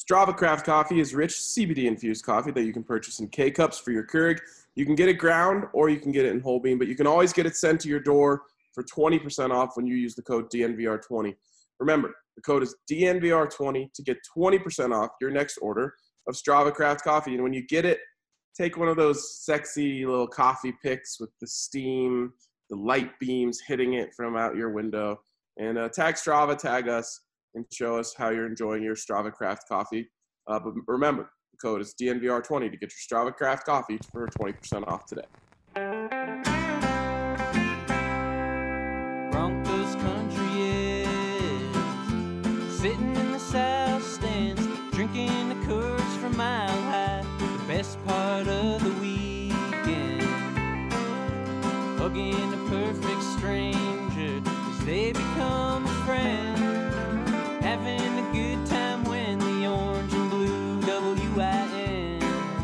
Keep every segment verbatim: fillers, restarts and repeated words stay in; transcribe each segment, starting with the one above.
Strava Craft Coffee is rich C B D-infused coffee that you can purchase in K-Cups for your Keurig. You can get it ground or you can get it in whole bean, but you can always get it sent to your door for twenty percent off when you use the code D N V R twenty. Remember, the code is D N V R twenty to get twenty percent off your next order of Strava Craft Coffee. And when you get it, take one of those sexy little coffee pics with the steam, the light beams hitting it from out your window, and uh, tag Strava, tag us, and show us how you're enjoying your Strava Craft Coffee. Uh, but remember, the code is D N V R twenty to get your Strava Craft Coffee for twenty percent off today. Broncos country is sitting in the south stands, drinking the Coors from Mile High. The best part of the weekend, hugging a perfect stranger as they become a friend, having a good time when the orange and blue W I N,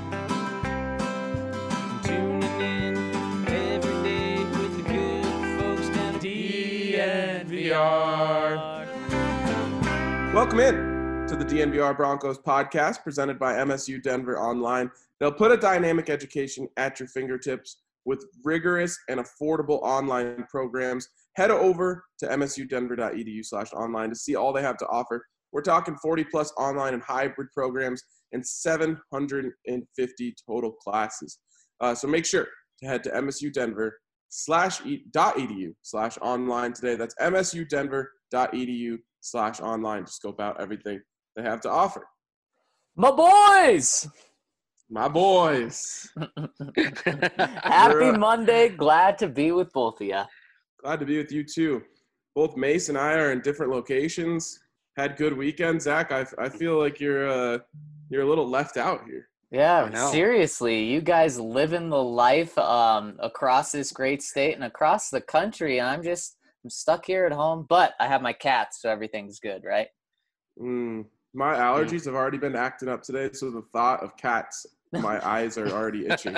tuning in every day with the good folks down at D N V R. Welcome in to the D N V R Broncos podcast presented by M S U Denver Online. They'll put a dynamic education at your fingertips with rigorous and affordable online programs. Head over to m s u denver dot e d u slash online to see all they have to offer. We're talking forty plus online and hybrid programs and seven hundred fifty total classes. Uh, so make sure to head to m s u denver dot e d u slash online today. That's m s u denver dot e d u slash online to scope out everything they have to offer. My boys! My boys. Happy Monday. Glad to be with both of you. Glad to be with you too. Both Mace and I are in different locations. Had good weekends. Zach, I, I feel like you're uh, you're a little left out here. Yeah, seriously. You guys living the life um, across this great state and across the country. And I'm just I'm stuck here at home. But I have my cats, so everything's good, right? Mm, my allergies have already been acting up today, so the thought of cats, my eyes are already itchy.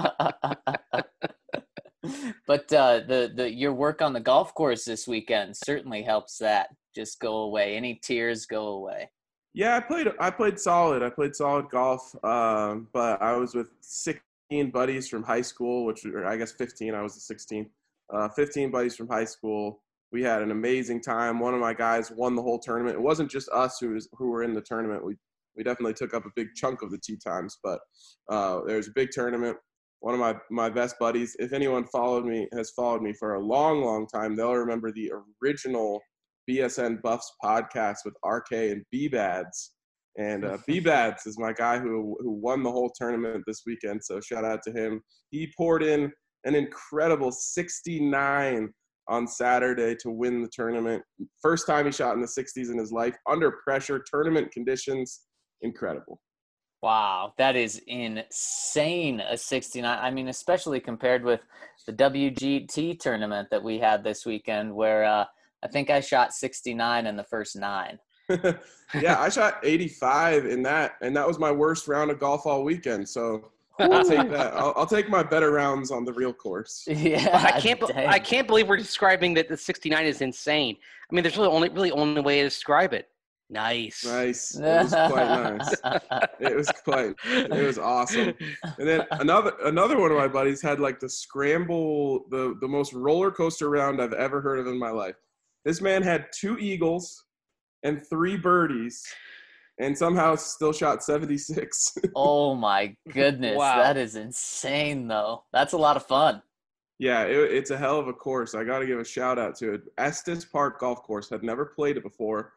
But uh, the the your work on the golf course this weekend certainly helps that just go away. Any tears go away. Yeah, I played. I played solid. I played solid golf. Um, but I was with sixteen buddies from high school, which or I guess fifteen. I was the sixteenth. Uh, fifteen buddies from high school. We had an amazing time. One of my guys won the whole tournament. It wasn't just us who was who were in the tournament. We we definitely took up a big chunk of the tee times, but uh, there was a big tournament. One of my, my best buddies, if anyone followed me, has followed me for a long, long time, they'll remember the original B S N Buffs podcast with R K and B-Bads. And uh, B-Bads is my guy who who won the whole tournament this weekend, so shout out to him. He poured in an incredible sixty-nine on Saturday to win the tournament. First time he shot in the sixties in his life, under pressure, tournament conditions, incredible. Wow, that is insane, a sixty-nine. I mean, especially compared with the W G T tournament that we had this weekend where uh, I think I shot sixty-nine in the first nine. Yeah, I shot eighty-five in that, and that was my worst round of golf all weekend. So I'll take that. I'll, I'll take my better rounds on the real course. Yeah, well, I can't. dang. I can't believe we're describing that the sixty-nine is insane. I mean, there's really only really only way to describe it. Nice. Nice. It was quite nice. It was quite. It was awesome. And then another another one of my buddies had like the scramble, the the most roller coaster round I've ever heard of in my life. This man had two eagles and three birdies, and somehow still shot seventy-six. Oh my goodness, Wow. That is insane though. That's a lot of fun. Yeah, it, it's a hell of a course. I got to give a shout out to it. Estes Park Golf Course. Had never played it before.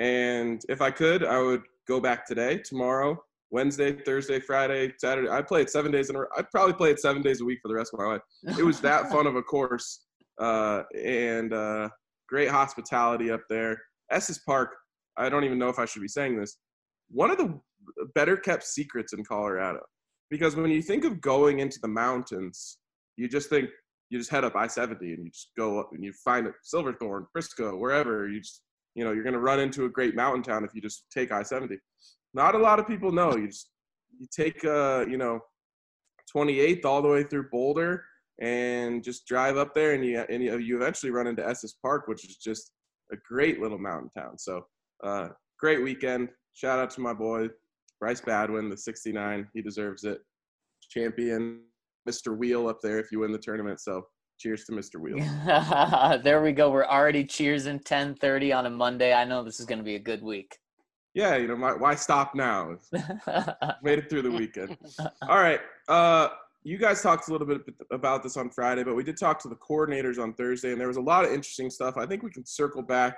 And if I could, I would go back today, tomorrow, Wednesday, Thursday, Friday, Saturday. I play it seven days in a row. I'd probably play it seven days a week for the rest of my life. It was that fun of a course, uh, and uh, great hospitality up there. Estes Park, I don't even know if I should be saying this, one of the better kept secrets in Colorado. Because when you think of going into the mountains, you just think, you just head up I seventy and you just go up and you find it, Silverthorne, Frisco, wherever. You just, you know, you're going to run into a great mountain town if you just take I seventy. Not a lot of people know. You just, you take, uh, you know, twenty-eighth all the way through Boulder and just drive up there, and you and you, you eventually run into Estes Park, which is just a great little mountain town. So uh, great weekend. shout out to my boy, Bryce Badwin, the sixty-nine. He deserves it. Champion, Mister Wheel up there if you win the tournament. So cheers to Mister Wheel. There we go. We're already cheersing ten thirty on a Monday. I know this is going to be a good week. Yeah, you know, why, why stop now? Made it through the weekend. All right. Uh, you guys talked a little bit about this on Friday, but we did talk to the coordinators on Thursday, and there was a lot of interesting stuff. I think we can circle back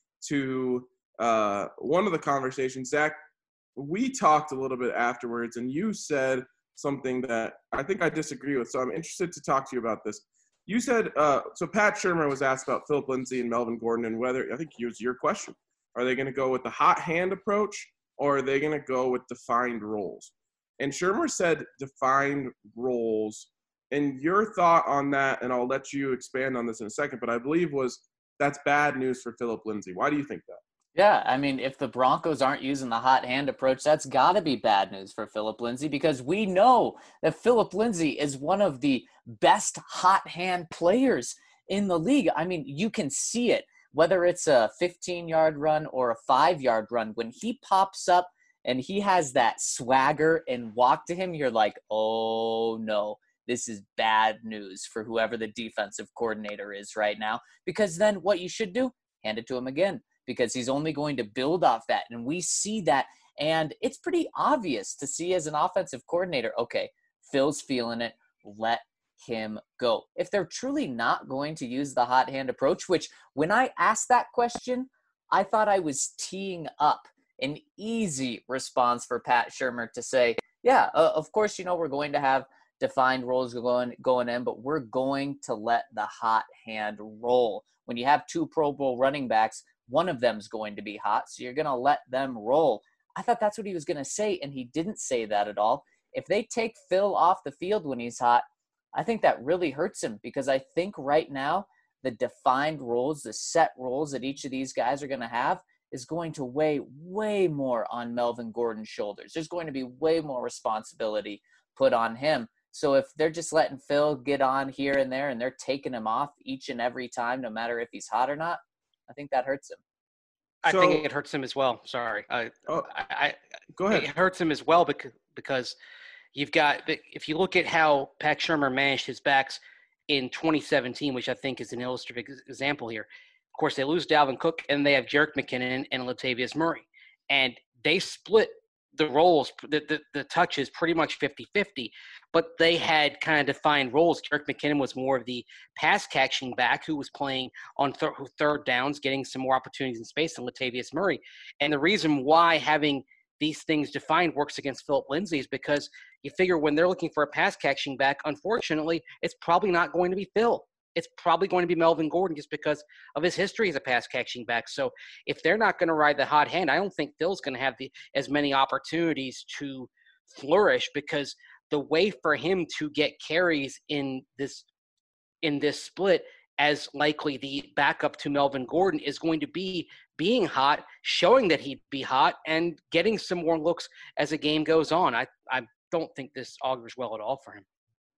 to uh, one of the conversations. Zach, we talked a little bit afterwards, and you said something that I think I disagree with, so I'm interested to talk to you about this. You said, uh, so Pat Shurmur was asked about Phillip Lindsay and Melvin Gordon and whether, I think it was your question, are they going to go with the hot hand approach or are they going to go with defined roles? And Shurmur said defined roles. And your thought on that, and I'll let you expand on this in a second, but I believe was that's bad news for Phillip Lindsay. Why do you think that? Yeah, I mean, if the Broncos aren't using the hot hand approach, that's got to be bad news for Phillip Lindsay because we know that Phillip Lindsay is one of the best hot hand players in the league. I mean, you can see it, whether it's a fifteen-yard run or a five-yard run. When he pops up and he has that swagger and walk to him, you're like, oh, no, this is bad news for whoever the defensive coordinator is right now. Because then what you should do, hand it to him again. Because he's only going to build off that. And we see that. And it's pretty obvious to see as an offensive coordinator, okay, Phil's feeling it. Let him go. If they're truly not going to use the hot hand approach, which when I asked that question, I thought I was teeing up an easy response for Pat Shurmur to say, yeah, uh, of course, you know, we're going to have defined roles going, going in, but we're going to let the hot hand roll. When you have two Pro Bowl running backs, one of them's going to be hot, so you're going to let them roll. I thought that's what he was going to say, and he didn't say that at all. If they take Phil off the field when he's hot, I think that really hurts him because I think right now the defined roles, the set roles that each of these guys are going to have is going to weigh way more on Melvin Gordon's shoulders. There's going to be way more responsibility put on him. So if they're just letting Phil get on here and there and they're taking him off each and every time, no matter if he's hot or not, I think that hurts him. I So- think it hurts him as well. Sorry. I, Oh, I, I, go ahead. It hurts him as well because, because you've got – if you look at how Pat Shurmur managed his backs in twenty seventeen, which I think is an illustrative ex- example here. Of course, they lose Dalvin Cook, and they have Jerick McKinnon and Latavius Murray. And they split the roles, the, the, the touches pretty much fifty-fifty, but they had kind of defined roles. Jerick McKinnon was more of the pass-catching back who was playing on thir- third downs, getting some more opportunities in space than Latavius Murray. And the reason why having these things defined works against Phillip Lindsay is because you figure when they're looking for a pass-catching back, unfortunately, it's probably not going to be Phil. It's probably going to be Melvin Gordon just because of his history as a pass-catching back. So if they're not going to ride the hot hand, I don't think Phil's going to have the, as many opportunities to flourish because the way for him to get carries in this in this split as likely the backup to Melvin Gordon is going to be being hot, showing that he'd be hot, and getting some more looks as the game goes on. I, I don't think this augurs well at all for him.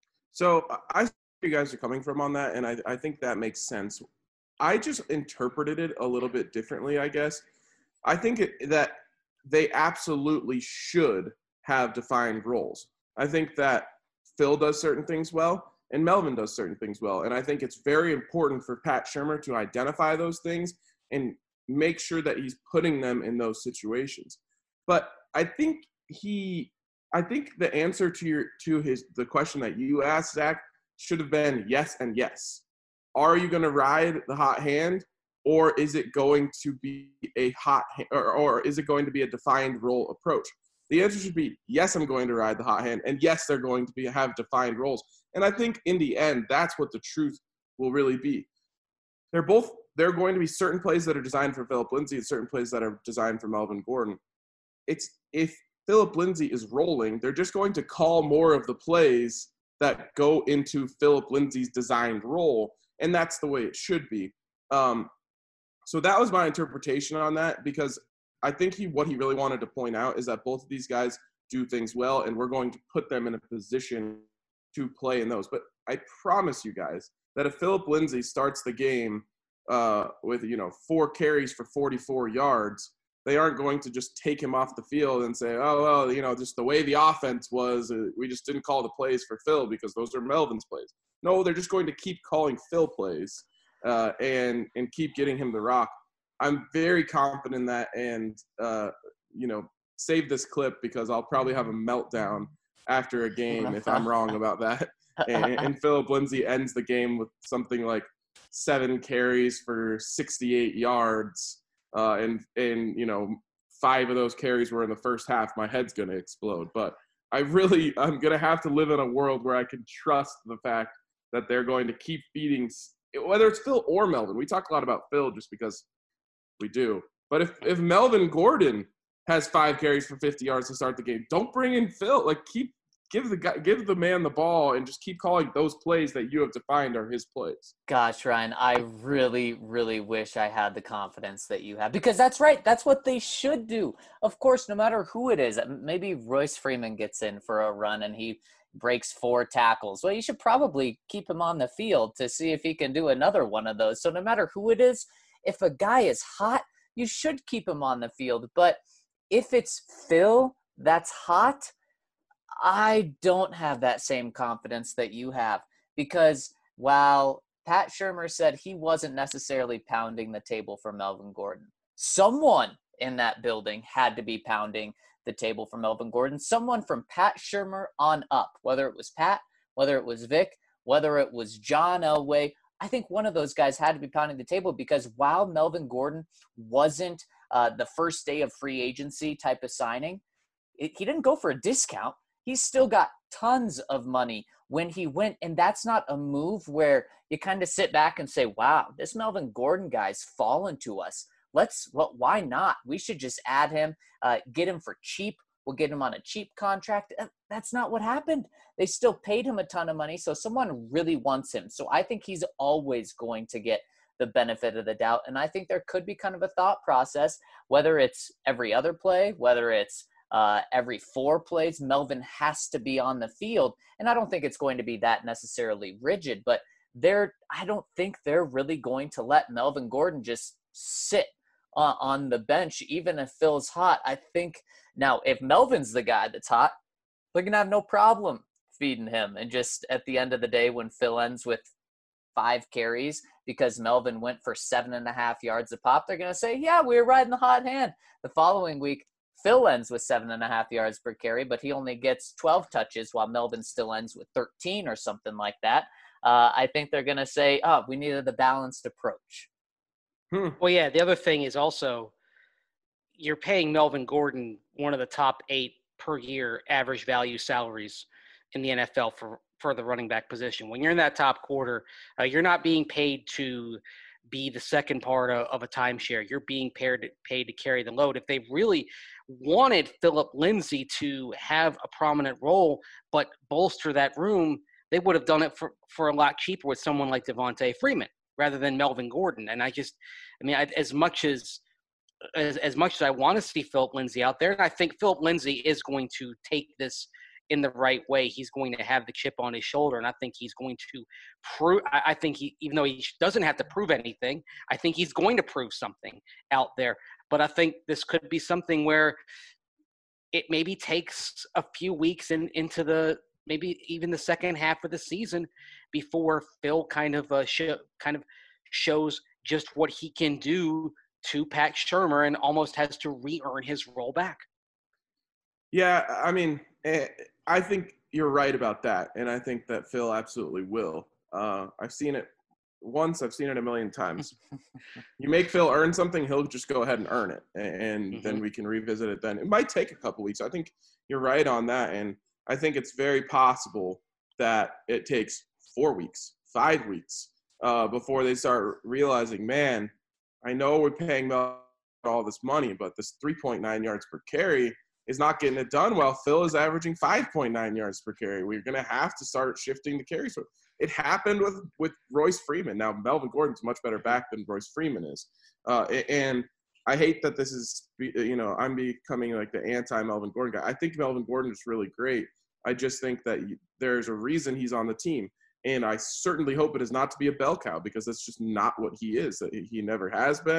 So I see where you guys are coming from on that, and I, I think that makes sense. I just interpreted it a little bit differently, I guess. I think it, that they absolutely should have defined roles. I think that Phil does certain things well, and Melvin does certain things well. And I think it's very important for Pat Shurmur to identify those things and make sure that he's putting them in those situations. But I think he I think the answer to your to his the question that you asked, Zach, should have been yes and yes. Are you going to ride the hot hand, or is it going to be a hot or, or is it going to be a defined role approach? The answer should be yes, I'm going to ride the hot hand, and yes, they're going to be have defined roles. And I think in the end, that's what the truth will really be. They're both there are going to be certain plays that are designed for Phillip Lindsay and certain plays that are designed for Melvin Gordon. It's if Phillip Lindsay is rolling, they're just going to call more of the plays that go into Phillip Lindsay's designed role, and that's the way it should be. Um, so that was my interpretation on that, because I think he what he really wanted to point out is that both of these guys do things well, and we're going to put them in a position to play in those. But I promise you guys that if Phillip Lindsay starts the game uh, with, you know, four carries for forty-four yards, they aren't going to just take him off the field and say, oh, well, you know, just the way the offense was, uh, we just didn't call the plays for Phil because those are Melvin's plays. No, they're just going to keep calling Phil plays uh, and and keep getting him the rock. I'm very confident in that, and, uh, you know, save this clip because I'll probably have a meltdown after a game if I'm wrong about that. And, and Philip Lindsay ends the game with something like seven carries for sixty-eight yards. Uh, and, and, you know, five of those carries were in the first half. My head's going to explode. But I really, I'm going to have to live in a world where I can trust the fact that they're going to keep feeding, whether it's Phil or Melvin. We talk a lot about Phil just because we do. But if, if Melvin Gordon has five carries for fifty yards to start the game, don't bring in Phil. Like, keep, give the guy, give the man the ball and just keep calling those plays that you have defined are his plays. Gosh, Ryan, I really, really wish I had the confidence that you have, because that's right. That's what they should do. Of course, no matter who it is, maybe Royce Freeman gets in for a run and he breaks four tackles. Well, you should probably keep him on the field to see if he can do another one of those. So no matter who it is, if a guy is hot, you should keep him on the field. But if it's Phil that's hot, I don't have that same confidence that you have, because while Pat Shurmur said he wasn't necessarily pounding the table for Melvin Gordon, someone in that building had to be pounding the table for Melvin Gordon. Someone from Pat Shurmur on up, whether it was Pat, whether it was Vic, whether it was John Elway. I think one of those guys had to be pounding the table, because while Melvin Gordon wasn't uh, the first day of free agency type of signing, it, he didn't go for a discount. He's still got tons of money when he went, and that's not a move where you kind of sit back and say, wow, this Melvin Gordon guy's fallen to us. Let's, well, why not? We should just add him, uh, get him for cheap. We'll get him on a cheap contract. That's not what happened. They still paid him a ton of money, so someone really wants him. So I think he's always going to get the benefit of the doubt, and I think there could be kind of a thought process, whether it's every other play, whether it's Uh, every four plays, Melvin has to be on the field. And I don't think it's going to be that necessarily rigid, but they're, I don't think they're really going to let Melvin Gordon just sit uh, on the bench, even if Phil's hot. I think now if Melvin's the guy that's hot, they're going to have no problem feeding him. And just at the end of the day, when Phil ends with five carries because Melvin went for seven and a half yards a pop, they're going to say, yeah, we were riding the hot hand. The following week, Phil ends with seven and a half yards per carry, but he only gets twelve touches while Melvin still ends with thirteen or something like that. Uh, I think they're going to say, oh, we needed the balanced approach. Hmm. Well, yeah, the other thing is also you're paying Melvin Gordon one of the top eight per year average value salaries in the N F L for, for the running back position. When you're in that top quarter, uh, you're not being paid to be the second part of, of a timeshare. You're being paid, paid to carry the load. If they really wanted Philip Lindsay to have a prominent role but bolster that room, they would have done it for, for a lot cheaper with someone like Devontae Freeman rather than Melvin Gordon. And I just, I mean, I, as much as, as as much as I want to see Philip Lindsay out there, and I think Philip Lindsay is going to take this in the right way. He's going to have the chip on his shoulder, and I think he's going to prove – I think he, even though he doesn't have to prove anything, I think he's going to prove something out there. But I think this could be something where it maybe takes a few weeks in, into the – maybe even the second half of the season before Phil kind of uh, sh- kind of shows just what he can do to Pat Shurmur and almost has to re-earn his role back. Yeah, I mean – I think you're right about that, and I think that Phil absolutely will. Uh, I've seen it once. I've seen it a million times. You make Phil earn something, he'll just go ahead and earn it, and mm-hmm. then we can revisit it then. It might take a couple weeks. I think you're right on that, and I think it's very possible that it takes four weeks, five weeks uh, before they start realizing, man, I know we're paying Mel all this money, but this three point nine yards per carry is not getting it done well. Phil is averaging five point nine yards per carry. We're going to have to start shifting the carries. It happened with, with Royce Freeman. Now, Melvin Gordon's a much better back than Royce Freeman is. Uh, and I hate that this is, you know, I'm becoming like the anti-Melvin Gordon guy. I think Melvin Gordon is really great. I just think that there's a reason he's on the team. And I certainly hope it is not to be a bell cow, because that's just not what he is. He never has been.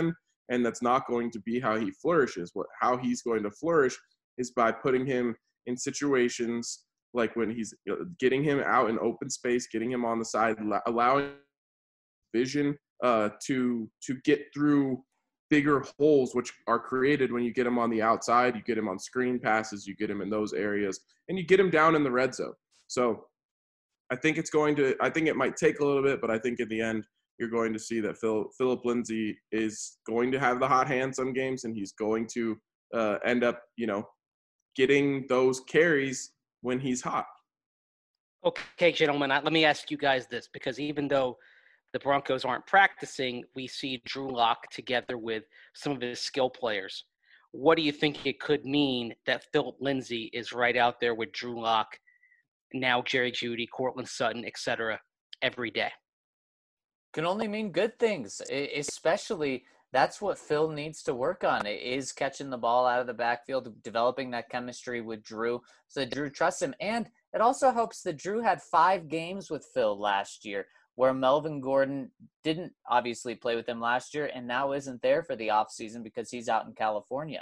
and that's not going to be how he flourishes. What how he's going to flourish is by putting him in situations like when he's you know, getting him out in open space, getting him on the side, allowing vision uh, to to get through bigger holes, which are created when you get him on the outside. You get him on screen passes, you get him in those areas, and you get him down in the red zone. So I think it's going to, I think it might take a little bit, but I think in the end, you're going to see that Phil, Philip Lindsay is going to have the hot hand some games, and he's going to uh, end up, you know, getting those carries when he's hot. Okay, gentlemen, let me ask you guys this, because even though the Broncos aren't practicing, we see Drew Lock together with some of his skill players. What do you think it could mean that Philip Lindsay is right out there with Drew Lock, now Jerry Jeudy, Courtland Sutton, et cetera, every day? Can only mean good things, especially that's what Phil needs to work on, is catching the ball out of the backfield, developing that chemistry with Drew so that Drew trusts him. And it also helps that Drew had five games with Phil last year, where Melvin Gordon didn't obviously play with him last year and now isn't there for the offseason because he's out in California.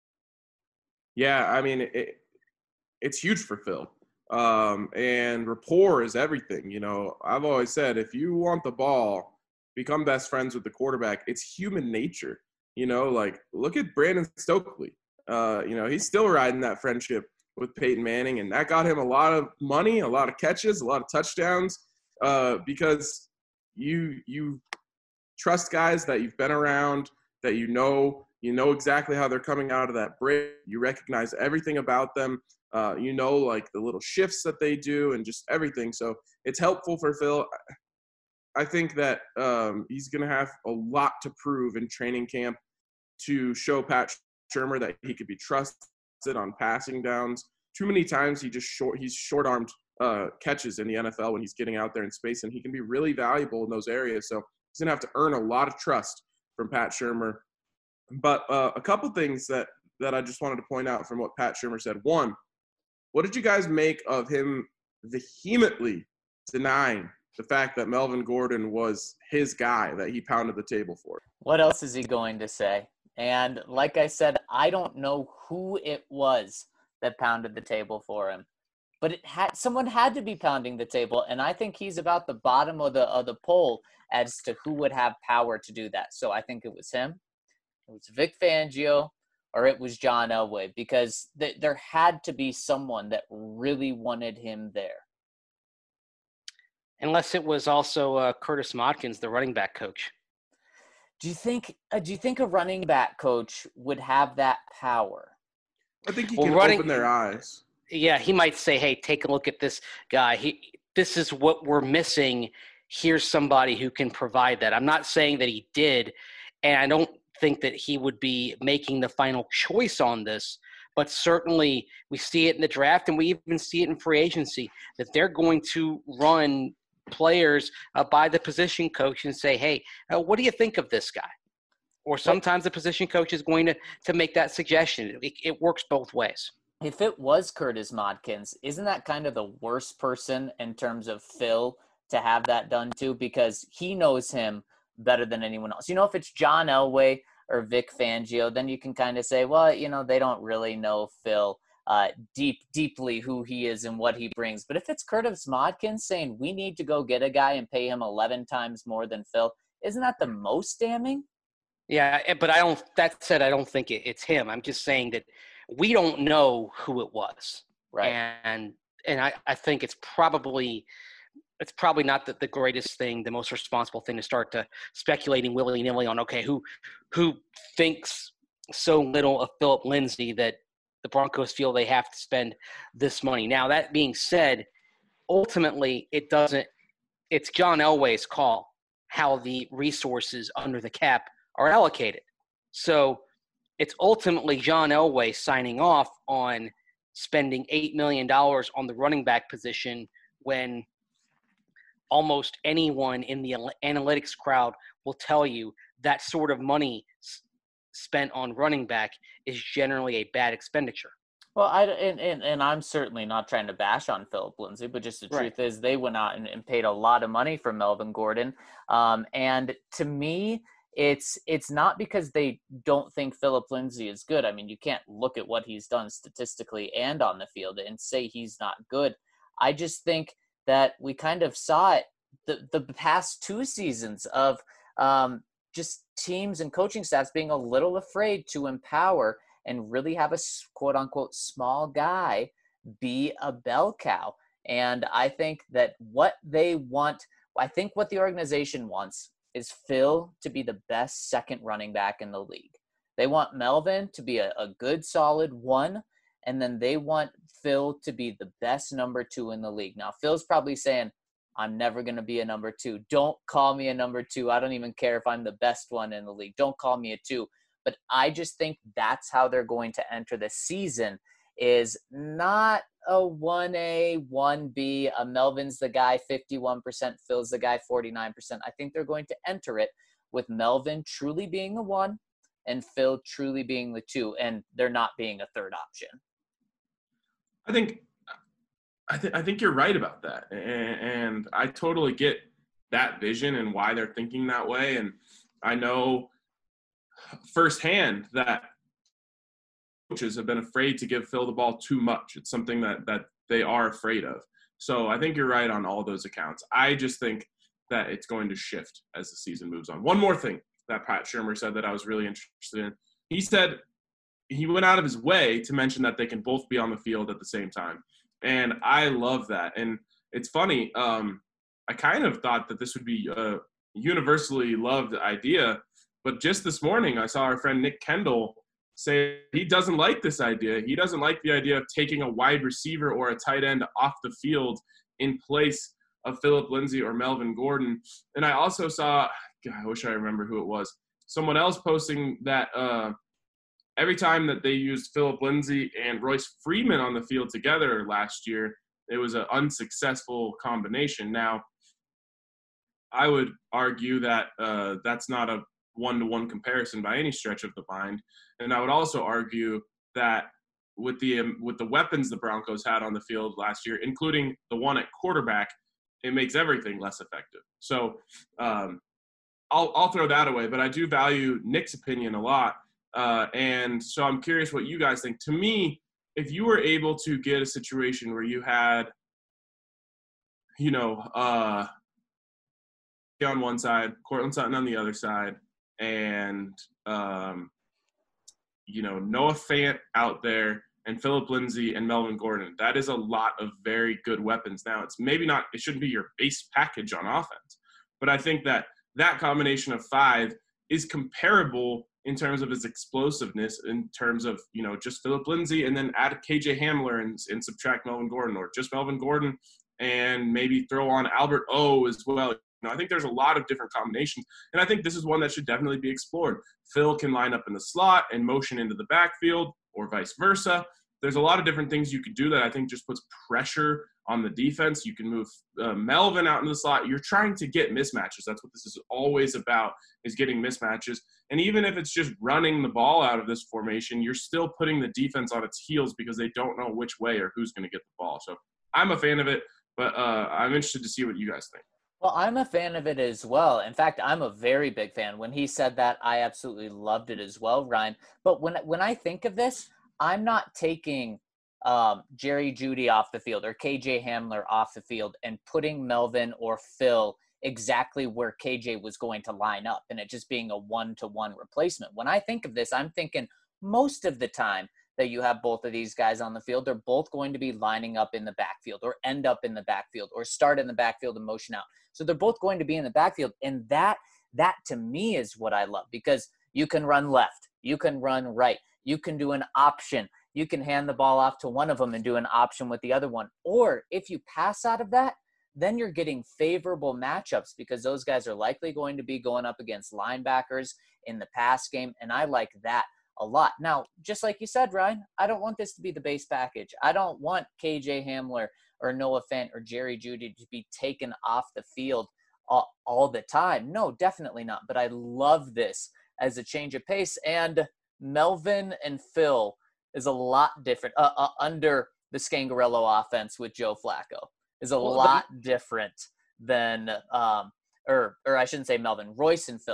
Yeah, I mean, it, it's huge for Phil. Um, and rapport is everything. You know, I've always said, if you want the ball, become best friends with the quarterback. It's human nature. You know, like, look at Brandon Stokely. Uh, you know, he's still riding that friendship with Peyton Manning, and that got him a lot of money, a lot of catches, a lot of touchdowns. Uh, because you you trust guys that you've been around, that you know you know exactly how they're coming out of that break. You recognize everything about them. Uh, you know, like the little shifts that they do and just everything. So it's helpful for Phil. I think that um, he's going to have a lot to prove in training camp to show Pat Shurmur that he could be trusted on passing downs. Too many times he just short he's short-armed uh, catches in the N F L when he's getting out there in space, and he can be really valuable in those areas. So he's going to have to earn a lot of trust from Pat Shurmur. But uh, a couple things that, that I just wanted to point out from what Pat Shurmur said. One, what did you guys make of him vehemently denying the fact that Melvin Gordon was his guy that he pounded the table for? What else is he going to say? And like I said, I don't know who it was that pounded the table for him. But it had someone had to be pounding the table, and I think he's about the bottom of the of the poll as to who would have power to do that. So I think it was him, it was Vic Fangio, or it was John Elway, because th- there had to be someone that really wanted him there. Unless it was also uh, Curtis Modkins, the running back coach. Do you think? Uh, do you think a running back coach would have that power? I think he well, can running, open their eyes. Yeah, he might say, hey, take a look at this guy. He, this is what we're missing. Here's somebody who can provide that. I'm not saying that he did, and I don't think that he would be making the final choice on this, but certainly we see it in the draft, and we even see it in free agency, that they're going to run players uh, by the position coach and say, hey, uh, what do you think of this guy? Or sometimes the position coach is going to, to make that suggestion. It, it works both ways. If it was Curtis Modkins, isn't that kind of the worst person in terms of Phil to have that done to? Because he knows him better than anyone else. You know, if it's John Elway or Vic Fangio, then you can kind of say, well, you know, they don't really know Phil uh, deep, deeply who he is and what he brings. But if it's Curtis Modkins saying we need to go get a guy and pay him eleven times more than Phil, isn't that the most damning? Yeah, but I don't. That said, I don't think it, it's him. I'm just saying that we don't know who it was, right? And and I, I think it's probably it's probably not the, the greatest thing, the most responsible thing to start to speculating willy nilly on. Okay, who who thinks so little of Philip Lindsay that the Broncos feel they have to spend this money? Now, that being said, ultimately it doesn't. It's John Elway's call how the resources under the cap are allocated. So it's ultimately John Elway signing off on spending eight million dollars on the running back position when almost anyone in the analytics crowd will tell you that sort of money spent on running back is generally a bad expenditure. Well, I, and, and, and I'm certainly not trying to bash on Philip Lindsay, but just the right. truth is they went out and, and paid a lot of money for Melvin Gordon. Um, and to me, it's it's not because they don't think Philip Lindsay is good. I mean, you can't look at what he's done statistically and on the field and say he's not good. I just think that we kind of saw it the, the past two seasons of um, just teams and coaching staffs being a little afraid to empower and really have a quote-unquote small guy be a bell cow. And I think that what they want, I think what the organization wants is Phil to be the best second running back in the league. They want Melvin to be a, a good, solid one, and then they want Phil to be the best number two in the league. Now, Phil's probably saying, I'm never going to be a number two. Don't call me a number two. I don't even care if I'm the best one in the league. Don't call me a two. But I just think that's how they're going to enter the season, is not a one A, one B, a Melvin's the guy fifty-one percent, Phil's the guy forty-nine percent. I think they're going to enter it with Melvin truly being the one and Phil truly being the two, and there not being a third option. I think I, th- I think you're right about that. And, and I totally get that vision and why they're thinking that way. And I know firsthand that coaches have been afraid to give Phil the ball too much. It's something that, that they are afraid of. So I think you're right on all those accounts. I just think that it's going to shift as the season moves on. One more thing that Pat Shurmur said that I was really interested in. He said he went out of his way to mention that they can both be on the field at the same time. And I love that. And it's funny. Um, I kind of thought that this would be a universally loved idea. But just this morning, I saw our friend Nick Kendall say he doesn't like this idea. He doesn't like the idea of taking a wide receiver or a tight end off the field in place of Philip Lindsay or Melvin Gordon. And I also saw, God, I wish I remember who it was, someone else posting that uh, every time that they used Philip Lindsay and Royce Freeman on the field together last year, it was an unsuccessful combination. Now, I would argue that uh, that's not a one-to-one comparison by any stretch of the mind. And I would also argue that with the um, with the weapons the Broncos had on the field last year, including the one at quarterback, it makes everything less effective. So um, I'll I'll throw that away, but I do value Nick's opinion a lot. Uh, and so I'm curious what you guys think. To me, if you were able to get a situation where you had, you know, uh, on one side, Courtland Sutton on the other side, and, um, you know, Noah Fant out there and Philip Lindsay and Melvin Gordon, that is a lot of very good weapons. Now, it's maybe not – it shouldn't be your base package on offense. But I think that that combination of five is comparable in terms of his explosiveness, in terms of, you know, just Philip Lindsay and then add K J Hamler and, and subtract Melvin Gordon, or just Melvin Gordon and maybe throw on Albert O as well. You know, I think there's a lot of different combinations, and I think this is one that should definitely be explored. Phil can line up in the slot and motion into the backfield, or vice versa. There's a lot of different things you could do that I think just puts pressure on the defense. You can move uh, Melvin out into the slot. You're trying to get mismatches. That's what this is always about, is getting mismatches. And even if it's just running the ball out of this formation, you're still putting the defense on its heels because they don't know which way or who's going to get the ball. So I'm a fan of it, but uh, I'm interested to see what you guys think. Well, I'm a fan of it as well. In fact, I'm a very big fan. When he said that, I absolutely loved it as well, Ryan. But when when I think of this, I'm not taking um, Jerry Jeudy off the field or K J Hamler off the field and putting Melvin or Phil exactly where K J was going to line up and it just being a one-to-one replacement. When I think of this, I'm thinking most of the time that you have both of these guys on the field, they're both going to be lining up in the backfield or end up in the backfield or start in the backfield and motion out. So they're both going to be in the backfield. And that, that to me is what I love, because you can run left, you can run right, you can do an option, you can hand the ball off to one of them and do an option with the other one. Or if you pass out of that, then you're getting favorable matchups because those guys are likely going to be going up against linebackers in the pass game. And I like that a lot. Now, just like you said, Ryan, I don't want this to be the base package. I don't want K J Hamler or Noah Fant or Jerry Jeudy to be taken off the field all, all the time. No, definitely not. But I love this as a change of pace. And Melvin and Phil is a lot different uh, uh, under the Scangarello offense with Joe Flacco is a well, lot but- different than, um, or or I shouldn't say Melvin, Royce and Phil.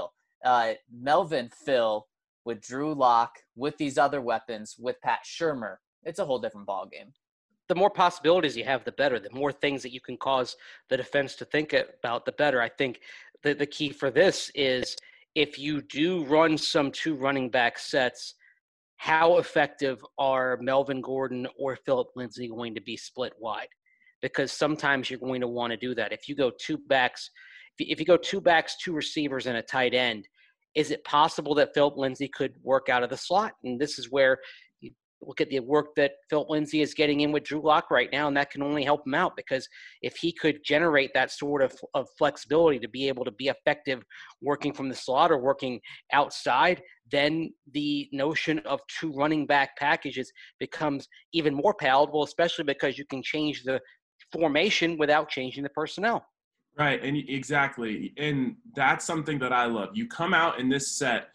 uh, Melvin, Phil, with Drew Lock, with these other weapons, with Pat Shurmur, it's a whole different ballgame. The more possibilities you have, the better. The more things that you can cause the defense to think about, the better. I think the, the key for this is if you do run some two running back sets, how effective are Melvin Gordon or Philip Lindsay going to be split wide? Because sometimes you're going to want to do that. If you go two backs, if you go two backs, two receivers, and a tight end, is it possible that Philip Lindsay could work out of the slot? And this is where you look at the work that Philip Lindsay is getting in with Drew Lock right now, and that can only help him out, because if he could generate that sort of, of flexibility to be able to be effective working from the slot or working outside, then the notion of two running back packages becomes even more palatable, especially because you can change the formation without changing the personnel. Right, and exactly, and that's something that I love. You come out in this set,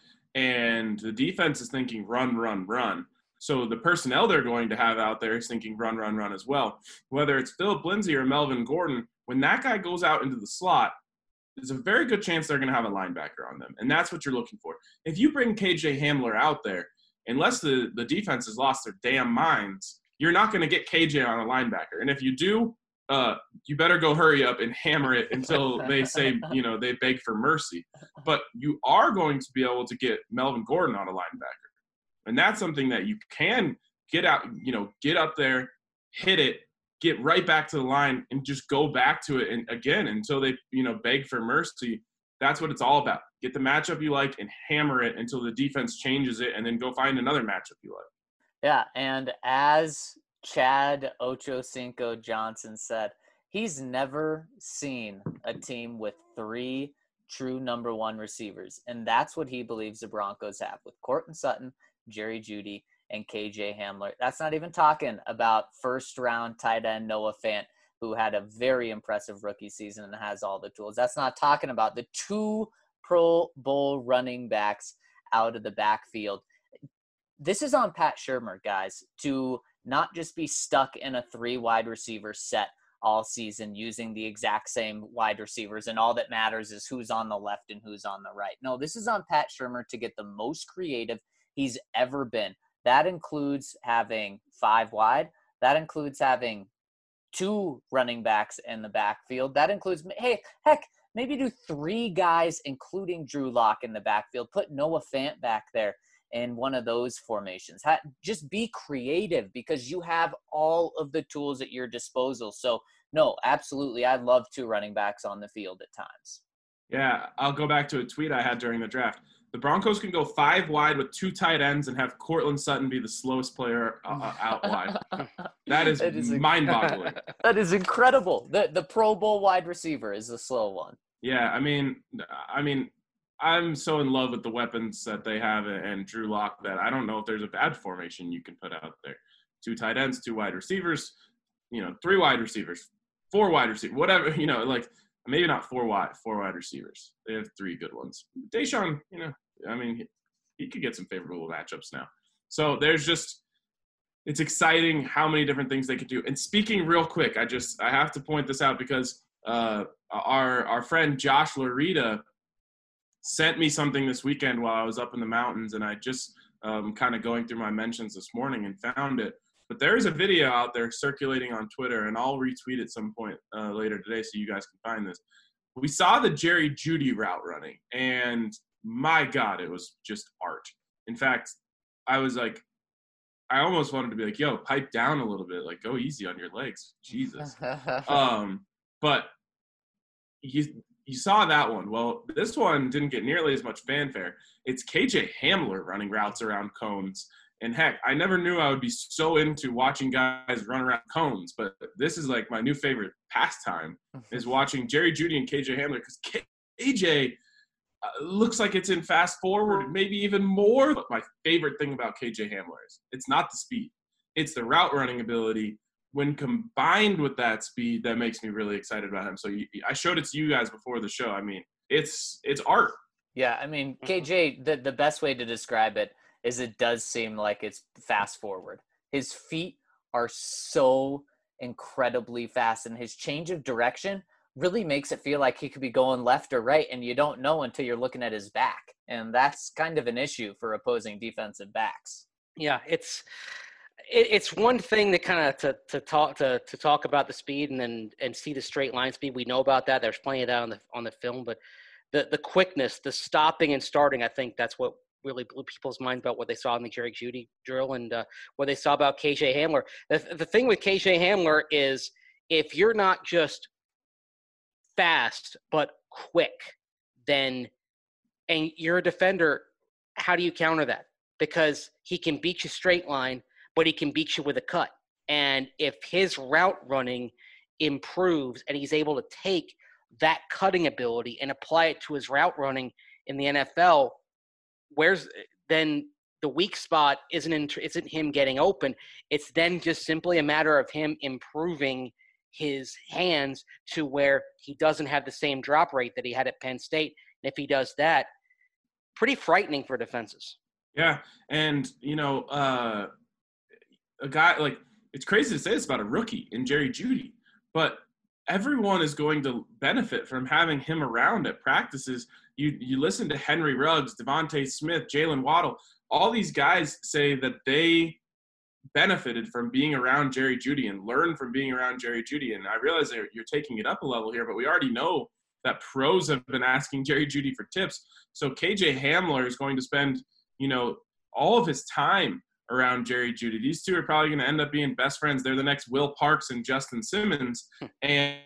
and the defense is thinking run, run, run. So the personnel they're going to have out there is thinking run, run, run as well. Whether it's Philip Lindsay or Melvin Gordon, when that guy goes out into the slot, there's a very good chance they're going to have a linebacker on them, and that's what you're looking for. If you bring K J Hamler out there, unless the, the defense has lost their damn minds, you're not going to get K J on a linebacker. And if you do, Uh, you better go hurry up and hammer it until they say, you know, they beg for mercy. But you are going to be able to get Melvin Gordon on a linebacker. And that's something that you can get out, you know, get up there, hit it, get right back to the line, and just go back to it and again until they, you know, beg for mercy. That's what it's all about. Get the matchup you like and hammer it until the defense changes it, and then go find another matchup you like. Yeah, and as Chad Ochocinco Johnson said, he's never seen a team with three true number one receivers. And that's what he believes the Broncos have with Courtland Sutton, Jerry Jeudy, and K J Hamler. That's not even talking about first round tight end Noah Fant, who had a very impressive rookie season and has all the tools. That's not talking about the two Pro Bowl running backs out of the backfield. This is on Pat Shurmur, guys, to not just be stuck in a three wide receiver set all season using the exact same wide receivers, and all that matters is who's on the left and who's on the right. No, this is on Pat Shurmur to get the most creative he's ever been. That includes having five wide. That includes having two running backs in the backfield. That includes, hey, heck, maybe do three guys, including Drew Lock in the backfield. Put Noah Fant back there in one of those formations. Ha- just be creative, because you have all of the tools at your disposal. So, no, absolutely, I love two running backs on the field at times. Yeah, I'll go back to a tweet I had during the draft. The Broncos can go five wide with two tight ends and have Courtland Sutton be the slowest player uh, out wide. That is, that is mind-boggling. That is incredible. The the Pro Bowl wide receiver is the slow one. Yeah, I mean, I mean, I'm so in love with the weapons that they have and Drew Lock that I don't know if there's a bad formation you can put out there. Two tight ends, two wide receivers, you know, three wide receivers, four wide receivers, whatever, you know, like maybe not four wide, four wide receivers. They have three good ones. Deshaun, you know, I mean, he, he could get some favorable matchups now. So there's just, it's exciting how many different things they could do. And speaking real quick, I just, I have to point this out because uh, our, our friend Josh Larita sent me something this weekend while I was up in the mountains, and I just um, kind of going through my mentions this morning and found it. But there is a video out there circulating on Twitter, and I'll retweet at some point uh, later today so you guys can find this. We saw the Jerry Jeudy route running, and my God, it was just art. In fact, I was like, I almost wanted to be like, yo, pipe down a little bit, like go easy on your legs, Jesus. um, but you you saw that one. Well, this one didn't get nearly as much fanfare. It's K J Hamler running routes around cones. And heck, I never knew I would be so into watching guys run around cones, but this is like my new favorite pastime is watching Jerry Jeudy and K J Hamler, because K J uh, looks like it's in fast forward, maybe even more. But my favorite thing about K J Hamler is it's not the speed. It's the route running ability. When combined with that speed, that makes me really excited about him. So you, I showed it to you guys before the show. I mean, it's it's art. Yeah, I mean, K J, the, the best way to describe it is it does seem like it's fast forward. His feet are so incredibly fast, and his change of direction really makes it feel like he could be going left or right, and you don't know until you're looking at his back. And that's kind of an issue for opposing defensive backs. Yeah, it's it, it's one thing to kind of to, to talk to to talk about the speed and then and see the straight line speed. We know about that. There's plenty of that on the on the film, but the the quickness, the stopping and starting, I think that's what really blew people's minds about what they saw in the Jerry Jeudy drill and uh, what they saw about K J Hamler. The, the thing with K J Hamler is if you're not just fast but quick, then and you're a defender, how do you counter that? Because he can beat you straight line, but he can beat you with a cut. And if his route running improves and he's able to take that cutting ability and apply it to his route running in the N F L, where's then the weak spot isn't in, isn't him getting open. It's then just simply a matter of him improving his hands to where he doesn't have the same drop rate that he had at Penn State. And if he does that, pretty frightening for defenses. Yeah, and, you know, uh, a guy – like, it's crazy to say this about a rookie in Jerry Jeudy, but everyone is going to benefit from having him around at practices. You you listen to Henry Ruggs, Devontae Smith, Jalen Waddle. All these guys say that they benefited from being around Jerry Jeudy and learned from being around Jerry Jeudy. And I realize that you're taking it up a level here, but we already know that pros have been asking Jerry Jeudy for tips. So K J Hamler is going to spend – you know, all of his time around Jerry Jeudy. These two are probably going to end up being best friends. They're the next Will Parks and Justin Simmons. And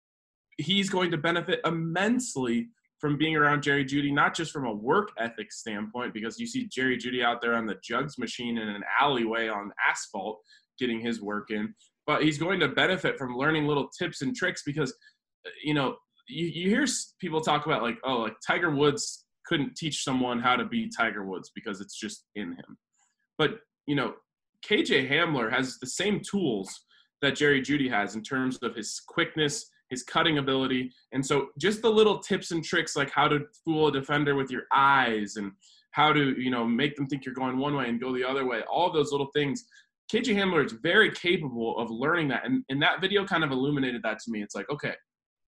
he's going to benefit immensely from being around Jerry Jeudy, not just from a work ethic standpoint, because you see Jerry Jeudy out there on the jugs machine in an alleyway on asphalt getting his work in, but he's going to benefit from learning little tips and tricks because, you know, you, you hear people talk about like, oh, like Tiger Woods couldn't teach someone how to be Tiger Woods because it's just in him. But, you know, K J Hamler has the same tools that Jerry Jeudy has in terms of his quickness, his cutting ability. And so just the little tips and tricks like how to fool a defender with your eyes and how to, you know, make them think you're going one way and go the other way, all of those little things. K J Hamler is very capable of learning that. And, and that video kind of illuminated that to me. It's like, okay,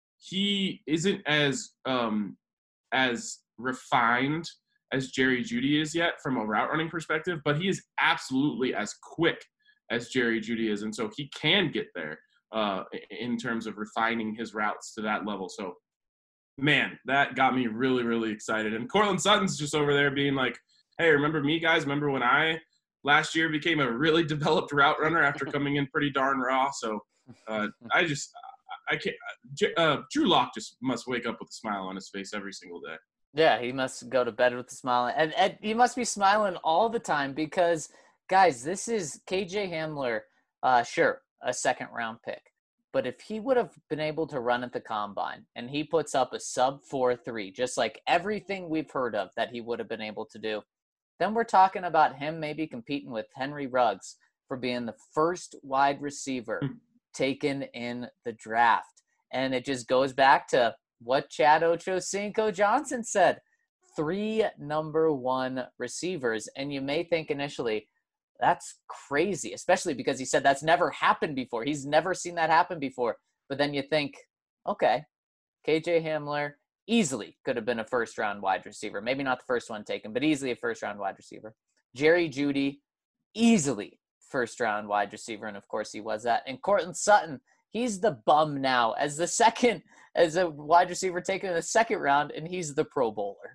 he isn't as um, as – refined as Jerry Jeudy is yet from a route running perspective, but he is absolutely as quick as Jerry Jeudy is. And so he can get there uh, in terms of refining his routes to that level. So, man, that got me really, really excited. And Courtland Sutton's just over there being like, hey, remember me, guys? Remember when I last year became a really developed route runner after coming in pretty darn raw? So uh, I just – I can't uh, – Drew Lock just must wake up with a smile on his face every single day. Yeah, he must go to bed with a smile. And, and he must be smiling all the time because, guys, this is K J Hamler, uh, sure, a second-round pick. But if he would have been able to run at the combine and he puts up a sub four three, just like everything we've heard of that he would have been able to do, then we're talking about him maybe competing with Henry Ruggs for being the first wide receiver taken in the draft. And it just goes back to what Chad Ochocinco Johnson said, three number one receivers. And you may think initially, that's crazy, especially because he said that's never happened before. He's never seen that happen before. But then you think, okay, K J Hamler easily could have been a first-round wide receiver. Maybe not the first one taken, but easily a first-round wide receiver. Jerry Jeudy, easily first-round wide receiver, and of course he was that. And Courtland Sutton, he's the bum now as the second, as a wide receiver taken in the second round, and he's the Pro Bowler.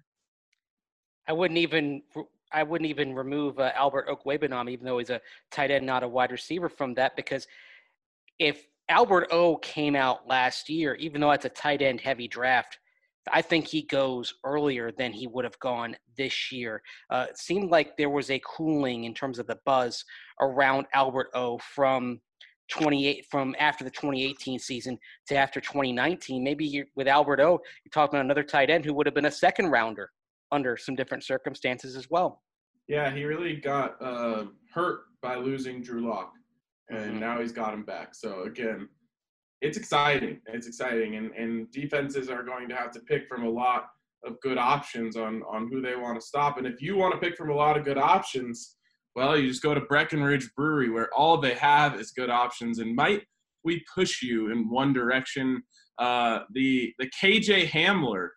I wouldn't even, I wouldn't even remove uh, Albert Okwuegbunam, even though he's a tight end, not a wide receiver, from that, because if Albert O came out last year, even though it's a tight end heavy draft, I think he goes earlier than he would have gone this year. Uh, it seemed like there was a cooling in terms of the buzz around Albert O from twenty-eight from after the twenty eighteen season to after twenty nineteen. Maybe you're, with Albert O, you're talking about another tight end who would have been a second rounder under some different circumstances as well. Yeah, he really got uh, hurt by losing Drew Lock, and mm-hmm. now he's got him back. So again, it's exciting. It's exciting, and and defenses are going to have to pick from a lot of good options on on who they want to stop. And if you want to pick from a lot of good options, well, you just go to Breckenridge Brewery, where all they have is good options. And might we push you in one direction? Uh, the the K J Hamler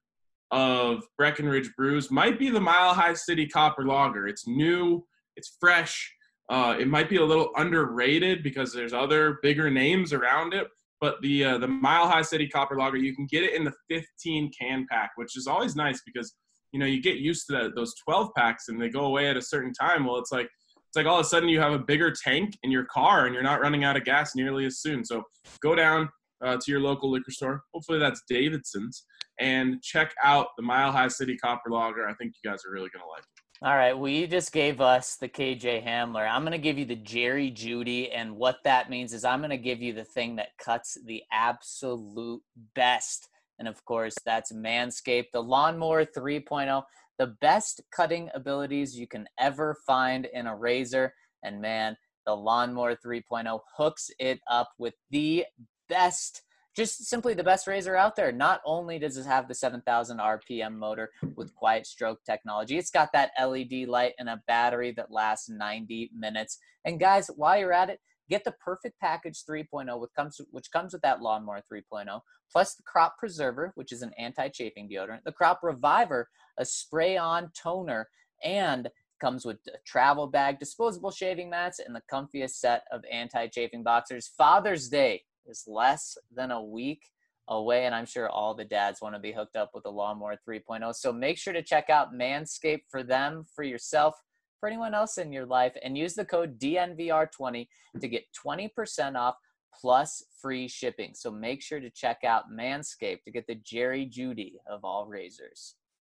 of Breckenridge Brews might be the Mile High City Copper Lager. It's new, it's fresh. Uh, it might be a little underrated because there's other bigger names around it. But the uh, the Mile High City Copper Lager, you can get it in the fifteen can pack, which is always nice because, you know, you get used to that, those twelve packs and they go away at a certain time. Well, it's like it's like all of a sudden you have a bigger tank in your car and you're not running out of gas nearly as soon. So go down uh, to your local liquor store. Hopefully that's Davidson's, and check out the Mile High City Copper Lager. I think you guys are really gonna like it. All right, well, you just gave us the K J Hamler. I'm going to give you the Jerry Judy, and what that means is I'm going to give you the thing that cuts the absolute best. And, of course, that's Manscaped, the Lawnmower three point oh, the best cutting abilities you can ever find in a razor. And, man, the Lawnmower three point oh hooks it up with the best, just simply the best razor out there. Not only does it have the seven thousand R P M motor with quiet stroke technology, it's got that L E D light and a battery that lasts ninety minutes. And guys, while you're at it, get the Perfect Package three point oh, which comes, which comes with that Lawnmower three point oh, plus the Crop Preserver, which is an anti-chafing deodorant, the Crop Reviver, a spray-on toner, and comes with a travel bag, disposable shaving mats, and the comfiest set of anti-chafing boxers. Father's Day is less than a week away, and I'm sure all the dads want to be hooked up with the Lawnmower three point oh. So make sure to check out Manscaped for them, for yourself, for anyone else in your life, and use the code D N V R twenty to get twenty percent off plus free shipping. So make sure to check out Manscaped to get the Jerry Judy of all razors.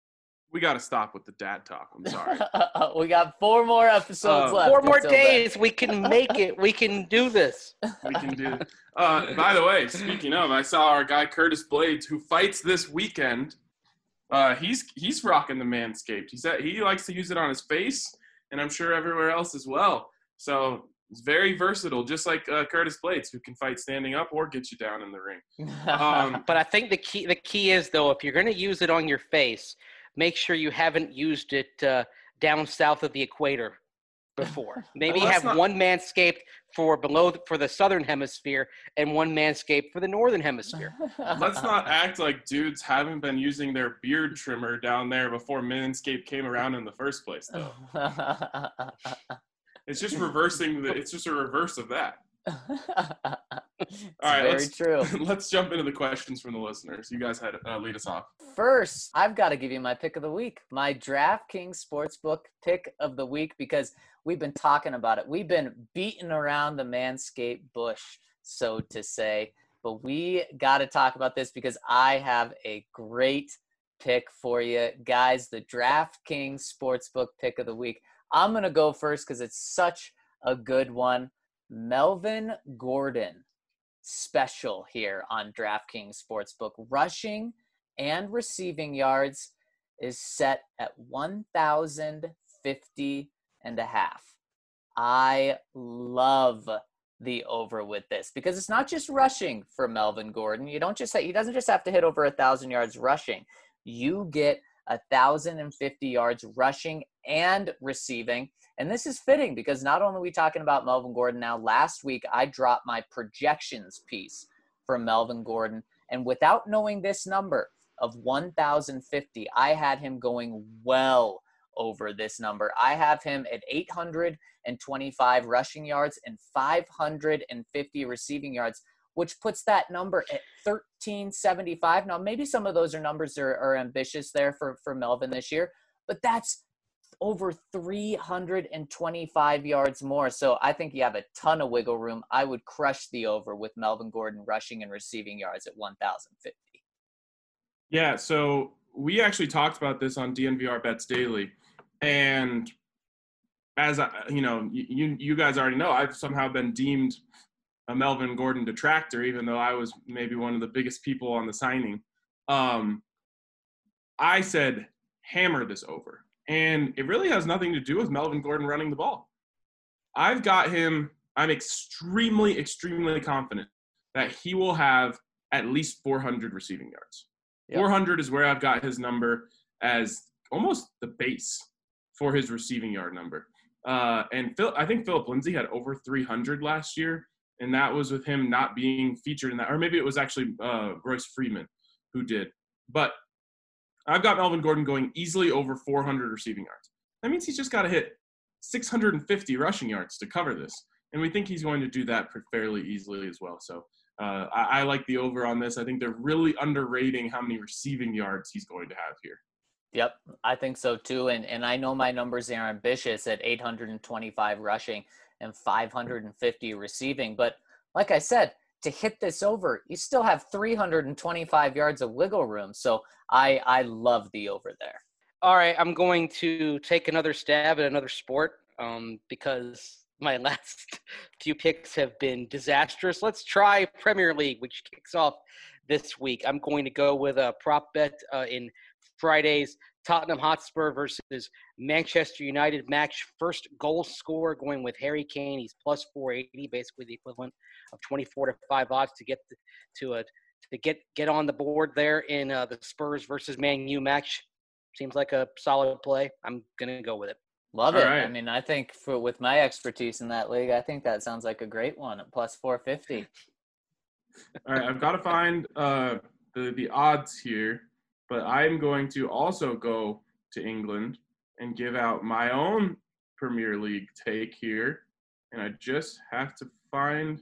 We got to stop with the dad talk. I'm sorry. We got four more episodes Uh, left. Four more until days. We can make it. We can do this. We can do it. Uh, by the way, speaking of, I saw our guy Curtis Blades, who fights this weekend. Uh, he's he's rocking the Manscaped. He said he likes to use it on his face, and I'm sure everywhere else as well. So it's very versatile, just like uh, Curtis Blades, who can fight standing up or get you down in the ring. then. Um, But I think the key the key is, though, if you're going to use it on your face, make sure you haven't used it uh, down south of the equator before. Maybe Well, that's have not- one Manscaped for below for the southern hemisphere and one Manscaped for the northern hemisphere. Let's not act like dudes haven't been using their beard trimmer down there before Manscaped came around in the first place, though. It's just reversing the. It's just a reverse of that. It's All right, very let's true. let's jump into the questions from the listeners. You guys had uh, lead us off. First, I've got to give you my pick of the week, my DraftKings Sportsbook pick of the week, because we've been talking about it. We've been beating around the Manscaped bush, so to say. But we got to talk about this because I have a great pick for you. Guys, the DraftKings Sportsbook pick of the week. I'm going to go first because it's such a good one. Melvin Gordon special here on DraftKings Sportsbook. Rushing and receiving yards is set at one thousand fifty and a half. I love the over with this because it's not just rushing for Melvin Gordon. You don't just say, he doesn't just have to hit over a thousand yards rushing. You get a thousand fifty yards rushing and receiving. And this is fitting because not only are we talking about Melvin Gordon now, last week I dropped my projections piece for Melvin Gordon. And without knowing this number of one thousand fifty, I had him going well over this number. I have him at eight hundred twenty-five rushing yards and five hundred fifty receiving yards, which puts that number at thirteen seventy-five. Now, maybe some of those are numbers are, are ambitious there for, for Melvin this year, but that's over three hundred twenty-five yards more. So I think you have a ton of wiggle room. I would crush the over with Melvin Gordon rushing and receiving yards at one thousand fifty. Yeah, so we actually talked about this on D N V R Bets Daily, and as I, you know, you you guys already know, I've somehow been deemed a Melvin Gordon detractor, even though I was maybe one of the biggest people on the signing. Um, I said hammer this over, and it really has nothing to do with Melvin Gordon running the ball. I've got him. I'm extremely, extremely confident that he will have at least four hundred receiving yards. Yep. four hundred is where I've got his number as almost the base for his receiving yard number. Uh, and Phil, I think Philip Lindsay had over three hundred last year, and that was with him not being featured in that. Or maybe it was actually uh, Royce Freeman who did. But I've got Melvin Gordon going easily over four hundred receiving yards. That means he's just got to hit six hundred fifty rushing yards to cover this. And we think he's going to do that fairly easily as well. So uh, I, I like the over on this. I think they're really underrating how many receiving yards he's going to have here. Yep, I think so too. And and I know my numbers are ambitious at eight hundred twenty-five rushing and five hundred fifty receiving. But like I said, to hit this over, you still have three hundred twenty-five yards of wiggle room. So I, I love the over there. All right, I'm going to take another stab at another sport um, because my last few picks have been disastrous. Let's try Premier League, which kicks off this week. I'm going to go with a prop bet uh, in Friday's Tottenham Hotspur versus Manchester United match. First goal scorer going with Harry Kane. He's plus four eighty, basically the equivalent of twenty-four to five odds to get the, to a to get get on the board there in uh, the Spurs versus Man U match. Seems like a solid play. I'm gonna go with it. Love All it. right. I mean, I think for with my expertise in that league, I think that sounds like a great one at plus four fifty. All right, I've got to find uh, the the odds here, but I'm going to also go to England and give out my own Premier League take here, and I just have to find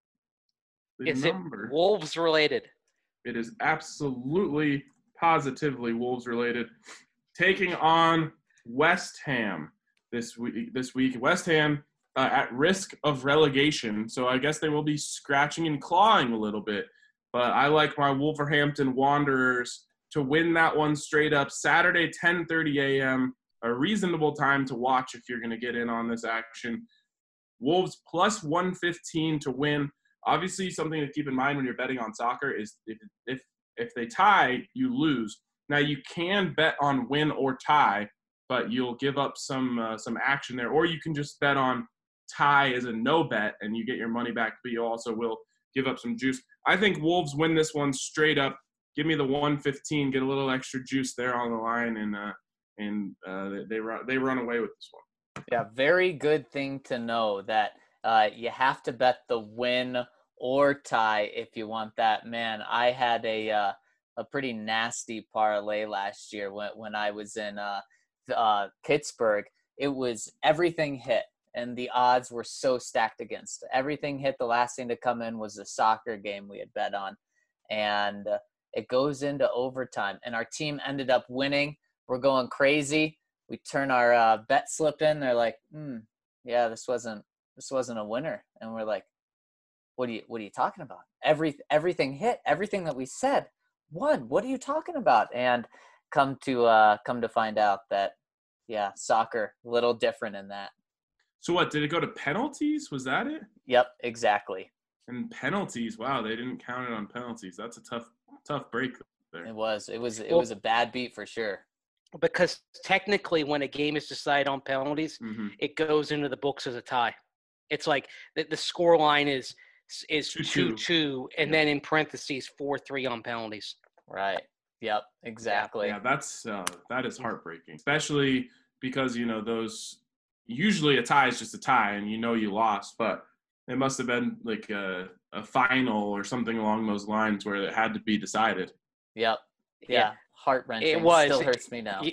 the Is number. it Wolves related? It is absolutely, positively Wolves related. Taking on West Ham this week. This week, West Ham uh, at risk of relegation, so I guess they will be scratching and clawing a little bit. But I like my Wolverhampton Wanderers to win that one straight up. Saturday, ten thirty a.m., a reasonable time to watch if you're going to get in on this action. Wolves plus one fifteen to win. Obviously, something to keep in mind when you're betting on soccer is if if if they tie, you lose. Now, you can bet on win or tie, but you'll give up some uh, some action there. Or you can just bet on tie as a no bet, and you get your money back, but you also will give up some juice. I think Wolves win this one straight up. Give me the one fifteen, get a little extra juice there on the line, and uh, and uh, they run they run away with this one. Yeah, very good thing to know that uh, you have to bet the win or tie if you want that. Man, I had a uh, a pretty nasty parlay last year when when I was in uh, uh, Pittsburgh. It was everything hit, and the odds were so stacked against. Everything hit. The last thing to come in was the soccer game we had bet on, and uh, it goes into overtime, and our team ended up winning. We're going crazy. We turn our uh, bet slip in. They're like, hmm, yeah, this wasn't this wasn't a winner. And we're like, what are you what are you talking about? Every everything hit. Everything that we said won. What are you talking about? And come to uh, come to find out that, yeah, soccer a little different in that. So what, did it go to penalties? Was that it? Yep, exactly. And penalties, wow, they didn't count it on penalties. That's a tough tough break there. It was. It was. It Well, was a bad beat for sure. Because technically, when a game is decided on penalties, Mm-hmm. it goes into the books as a tie. It's like the, the score line is is Two, two two. two, and Yeah. then in parentheses four three on penalties. Right. Yep. Exactly. Yeah, that's uh, that is heartbreaking, especially because you know those. Usually, a tie is just a tie, and you know you lost. But it must have been like a, a final or something along those lines where it had to be decided. Yep. Yeah. Heart wrenching. It was. Still hurts me now. Y-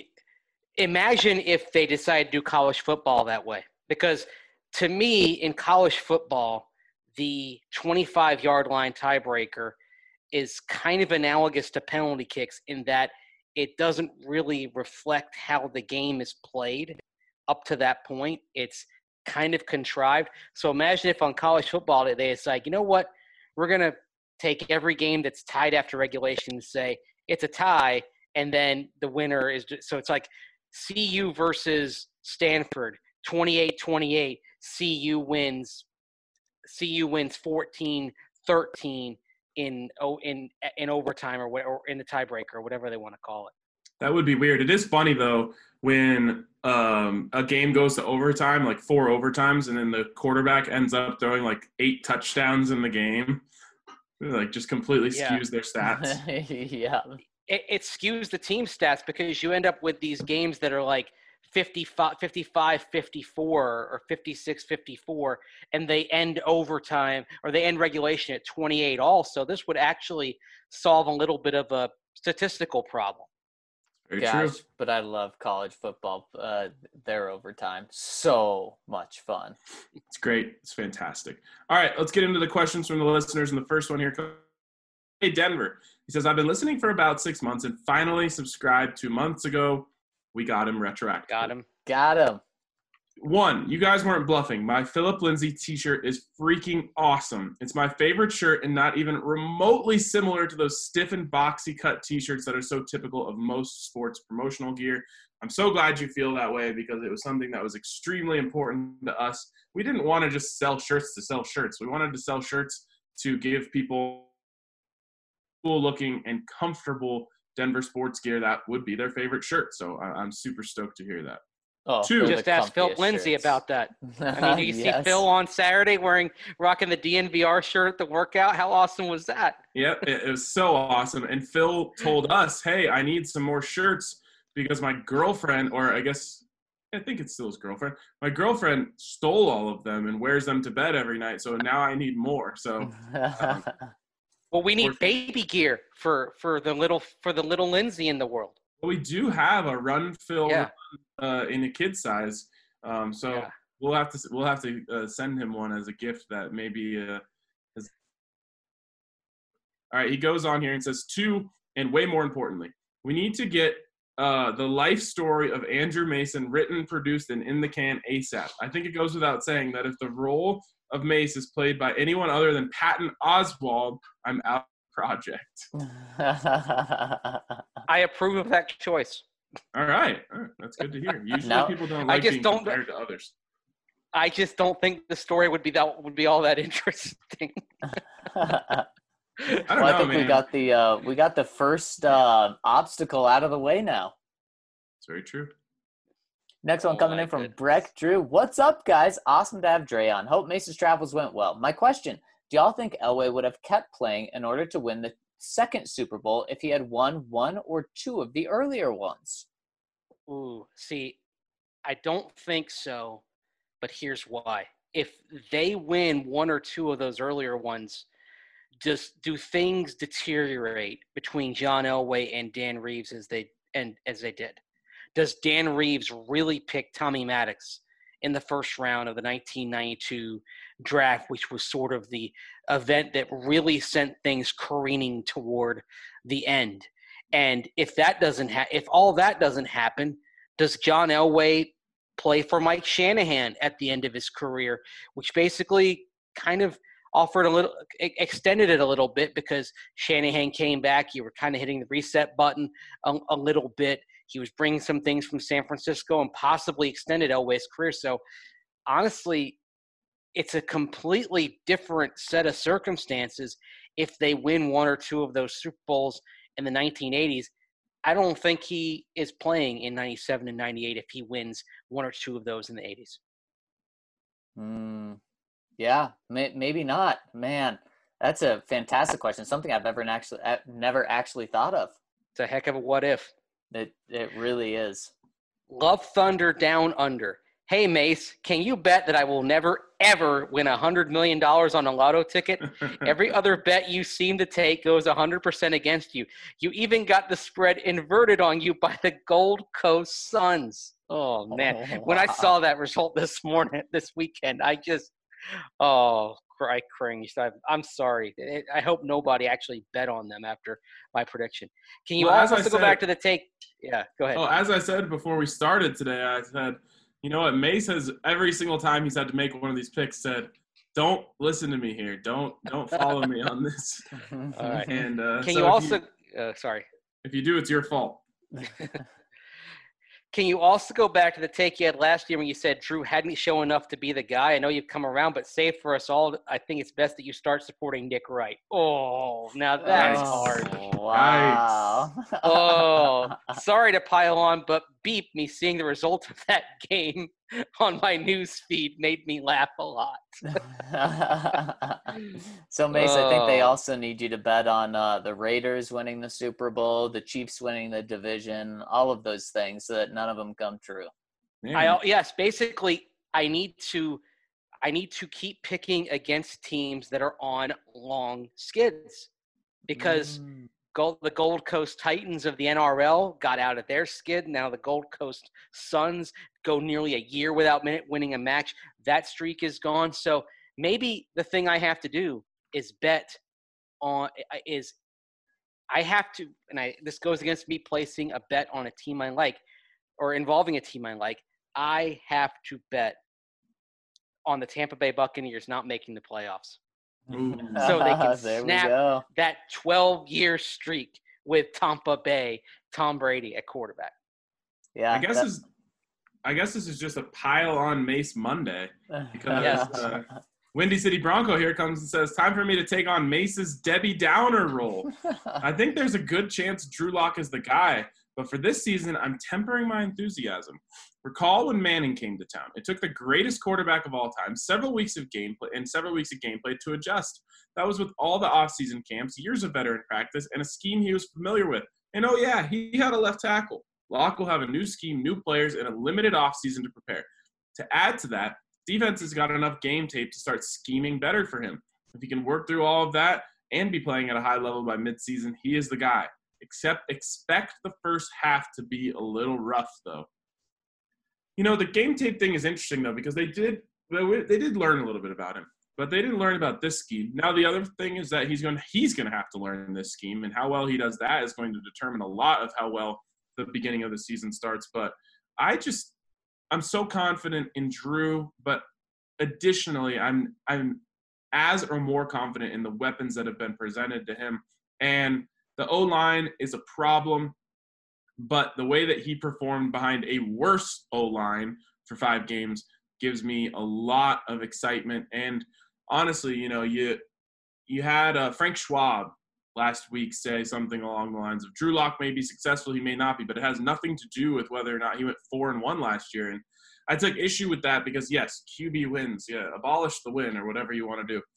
Imagine if they decided to do college football that way. Because to me, in college football, the twenty-five yard line tiebreaker is kind of analogous to penalty kicks in that it doesn't really reflect how the game is played up to that point. It's kind of contrived. So imagine if on college football they decide, you know what, we're going to take every game that's tied after regulation and say it's a tie, and then the winner is – so it's like C U versus Stanford, twenty-eight twenty-eight. C U wins C U wins fourteen thirteen in in in overtime or, or in the tiebreaker or whatever they want to call it. That would be weird. It is funny though when um, a game goes to overtime, like four overtimes, and then the quarterback ends up throwing like eight touchdowns in the game. Like just completely Yeah. skews their stats. Yeah. It, it skews the team stats because you end up with these games that are like fifty-five, fifty-five, fifty-four or fifty-six, fifty-four, and they end overtime or they end regulation at twenty-eight also. This would actually solve a little bit of a statistical problem. Very Gosh, true. but I love college football. Uh, their overtime, so much fun. It's great. It's fantastic. All right, let's get into the questions from the listeners. And the first one here comes. Hey, Denver. He says, I've been listening for about six months and finally subscribed two months ago. We got him retroactive. Got him. Got him. One, you guys weren't bluffing. My Philip Lindsay t-shirt is freaking awesome. It's my favorite shirt and not even remotely similar to those stiff and boxy cut t-shirts that are so typical of most sports promotional gear. I'm so glad you feel that way because it was something that was extremely important to us. We didn't want to just sell shirts to sell shirts. We wanted to sell shirts to give people cool looking and comfortable Denver sports gear that would be their favorite shirt. So I'm super stoked to hear that. Oh, Two. they're Just the ask Phil comfiest Lindsay shirts. about that. I mean, do you Yes. see Phil on Saturday wearing rocking the D N V R shirt at the workout? How awesome was that? Yep, it, it was so awesome. And Phil told us, hey, I need some more shirts because my girlfriend, or I guess, I think it's still his girlfriend, my girlfriend stole all of them and wears them to bed every night. So now I need more. So um, Well, we need Or- baby gear for for the little for the little Lindsay in the world. we do have a run Phil Yeah. uh, in a kid size. Um, so Yeah. we'll have to we'll have to uh, send him one as a gift that maybe uh, is... All right, he goes on here and says, two, and way more importantly, we need to get uh, the life story of Andrew Mason written, produced, and in the can ASAP. I think it goes without saying that if the role of Mace is played by anyone other than Patton Oswalt, I'm out of the project. I approve of that choice. All right. All right. That's good to hear. Usually No, people don't I like just being don't- compared to others. I just don't think the story would be that would be all that interesting. I don't well, I know, think man. we got the uh, we got the first uh, obstacle out of the way now. It's very true. Next one Oh coming my in from goodness. Breck Drew. What's up, guys? Awesome to have Dre on. Hope Mace's travels went well. My question, do y'all think Elway would have kept playing in order to win the second Super Bowl if he had won one or two of the earlier ones? Ooh, see, I don't think so, but here's why. If they win one or two of those earlier ones, just do things deteriorate between John Elway and Dan Reeves as they and as they did? Does Dan Reeves really pick Tommy Maddox in the first round of the nineteen ninety-two draft, which was sort of the event that really sent things careening toward the end? And if that doesn't ha- if all that doesn't happen, does John Elway play for Mike Shanahan at the end of his career, which basically kind of offered a little, extended it a little bit because Shanahan came back. You were kind of hitting the reset button a, a little bit. He was bringing some things from San Francisco and possibly extended Elway's career. So honestly, it's a completely different set of circumstances if they win one or two of those Super Bowls in the nineteen eighties. I don't think he is playing in ninety-seven and ninety-eight if he wins one or two of those in the eighties. Mm, yeah, may, maybe not. Man, that's a fantastic question. Something I've ever actually I've never actually thought of. It's a heck of a what if. It it really is. Love Thunder Down Under. Hey, Mace, can you bet that I will never, ever win one hundred million dollars on a lotto ticket? Every other bet you seem to take goes one hundred percent against you. You even got the spread inverted on you by the Gold Coast Suns. Oh, man. Oh, When I wow. saw that result this morning, this weekend, I just, oh, I cringed. I, I'm sorry. It, I hope nobody actually bet on them after my prediction. Can you Well, as also I go back said- to the take? Yeah, go ahead. Oh, as I said before we started today, I said, you know what, Mace has every single time he's had to make one of these picks said, don't listen to me here. Don't don't follow me on this. All right. And uh, Can so you if also, uh, sorry. if you do, it's your fault. Can you also go back to the take you had last year when you said Drew hadn't shown enough to be the guy? I know you've come around, but save for us all, I think it's best that you start supporting Nick Wright. Oh, now that's Nice. hard. Wow. Oh, sorry to pile on, but beep, me seeing the result of that game on my news feed made me laugh a lot. So, Mace, I think they Oh. also need you to bet on uh, the Raiders winning the Super Bowl, the Chiefs winning the division, all of those things, so that none of them come true. Man. I yes, basically, I need to, I need to keep picking against teams that are on long skids, because Mm. Gold, the Gold Coast Titans of the N R L got out of their skid. Now the Gold Coast Suns go nearly a year without minute winning a match. That streak is gone. So maybe the thing I have to do is bet on is I have to, and I this goes against me placing a bet on a team I like or involving a team I like. I have to bet on the Tampa Bay Buccaneers not making the playoffs. Ooh. So they can There we snap go. that twelve-year streak with Tampa Bay, Tom Brady at quarterback. Yeah. I guess that- this, I guess this is just a pile on Mace Monday because Yes. uh, Windy City Bronco here comes and says, "Time for me to take on Mace's Debbie Downer role." I think there's a good chance Drew Lock is the guy, but for this season, I'm tempering my enthusiasm. Recall when Manning came to town. It took the greatest quarterback of all time several weeks of gameplay and several weeks of gameplay to adjust. That was with all the offseason camps, years of veteran practice, and a scheme he was familiar with. And oh yeah, he had a left tackle. Lock will have a new scheme, new players, and a limited offseason to prepare. To add to that, defense has got enough game tape to start scheming better for him. If he can work through all of that and be playing at a high level by midseason, he is the guy. Except expect the first half to be a little rough, though. You know, the game tape thing is interesting, though, because they did they did learn a little bit about him, but they didn't learn about this scheme. Now, the other thing is that he's going he's going to have to learn this scheme, and how well he does that is going to determine a lot of how well the beginning of the season starts. But I just I'm so confident in Drew, but additionally, I'm I'm as or more confident in the weapons that have been presented to him. And the O-line is a problem, but the way that he performed behind a worse O-line for five games gives me a lot of excitement. And honestly, you know, you you had uh, Frank Schwab last week say something along the lines of Drew Lock may be successful, he may not be, but it has nothing to do with whether or not he went four and one last year. And I took issue with that because yes, Q B wins, yeah, abolish the win or whatever you want to do.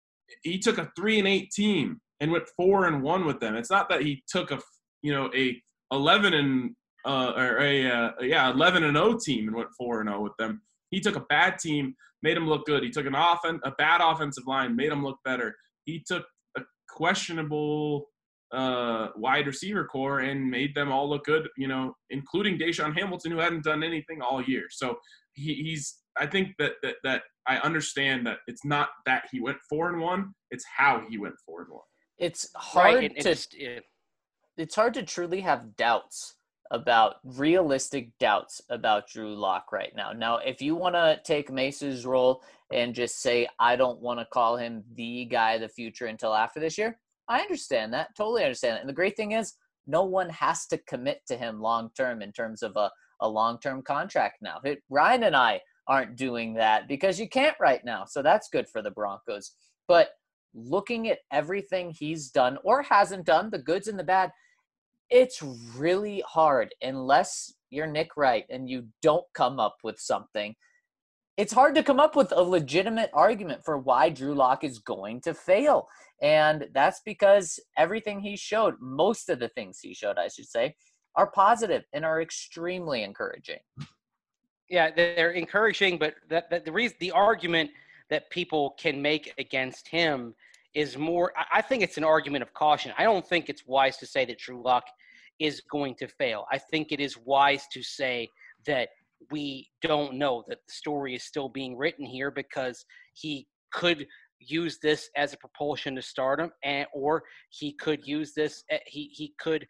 He took a three and eight team and went four and one with them. It's not that he took a you know a eleven and uh, or a uh, yeah eleven and oh team and went four and oh with them. He took a bad team, made him look good. He took an offen- a bad offensive line, made him look better. He took a questionable uh, wide receiver core and made them all look good, you know, including Deshaun Hamilton, who hadn't done anything all year. So he, he's – I think that, that that I understand that it's not that he went four and one, it's how he went four and one. It's hard Right, and- and to it's- yeah. it's hard to truly have doubts about realistic doubts about Drew Lock right now. Now, if you want to take Mace's role and just say, I don't want to call him the guy of the future until after this year, I understand that. Totally understand that. And the great thing is no one has to commit to him long-term in terms of a, a long-term contract now. It, Ryan and I aren't doing that because you can't right now. So that's good for the Broncos. But looking at everything he's done or hasn't done, the goods and the bad, it's really hard unless you're Nick Wright and you don't come up with something. It's hard to come up with a legitimate argument for why Drew Lock is going to fail. And that's because everything he showed, most of the things he showed, I should say, are positive and are extremely encouraging. Yeah, they're encouraging, but that, that the reason, the argument that people can make against him is more, I think it's an argument of caution. I don't think it's wise to say that Drew Lock is going to fail. I think it is wise to say that we don't know, that the story is still being written here because he could use this as a propulsion to stardom, and or he could use this, he he could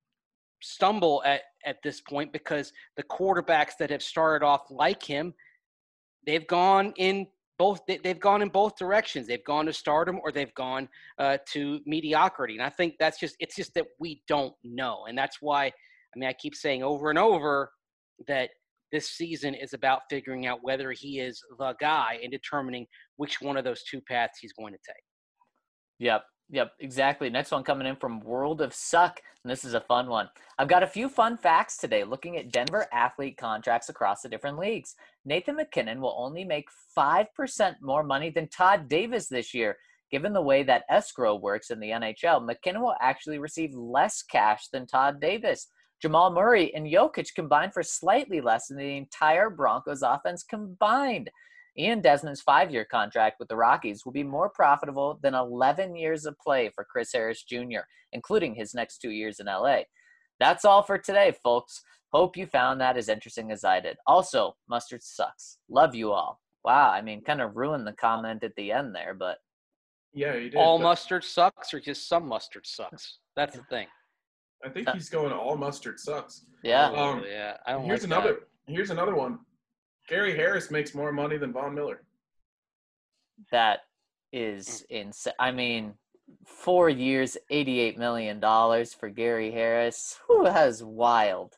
stumble at, at this point because the quarterbacks that have started off like him, they've gone in both they, they've gone in both directions. They've gone to stardom or they've gone uh, to mediocrity. And I think that's just it's just that we don't know. And that's why, I mean, I keep saying over and over that this season is about figuring out whether he is the guy and determining which one of those two paths he's going to take. Yep. Yep, exactly. Next one coming in from World of Suck, and this is a fun one. I've got a few fun facts today looking at Denver athlete contracts across the different leagues. Nathan McKinnon will only make five percent more money than Todd Davis this year. Given the way that escrow works in the N H L, McKinnon will actually receive less cash than Todd Davis. Jamal Murray and Jokic combined for slightly less than the entire Broncos offense combined. Ian Desmond's five-year contract with the Rockies will be more profitable than eleven years of play for Chris Harris Junior, including his next two years in L A. That's all for today, folks. Hope you found that as interesting as I did. Also, mustard sucks. Love you all. Wow, I mean, kind of ruined the comment at the end there, but Yeah, you did. All but mustard sucks or just some mustard sucks? That's the thing. I think he's going all mustard sucks. yeah. Um, Oh, yeah. I don't Here's like another. that. Here's another one. Gary Harris makes more money than Von Miller. That is insane. I mean, four years, eighty-eight million dollars for Gary Harris. Who has wild?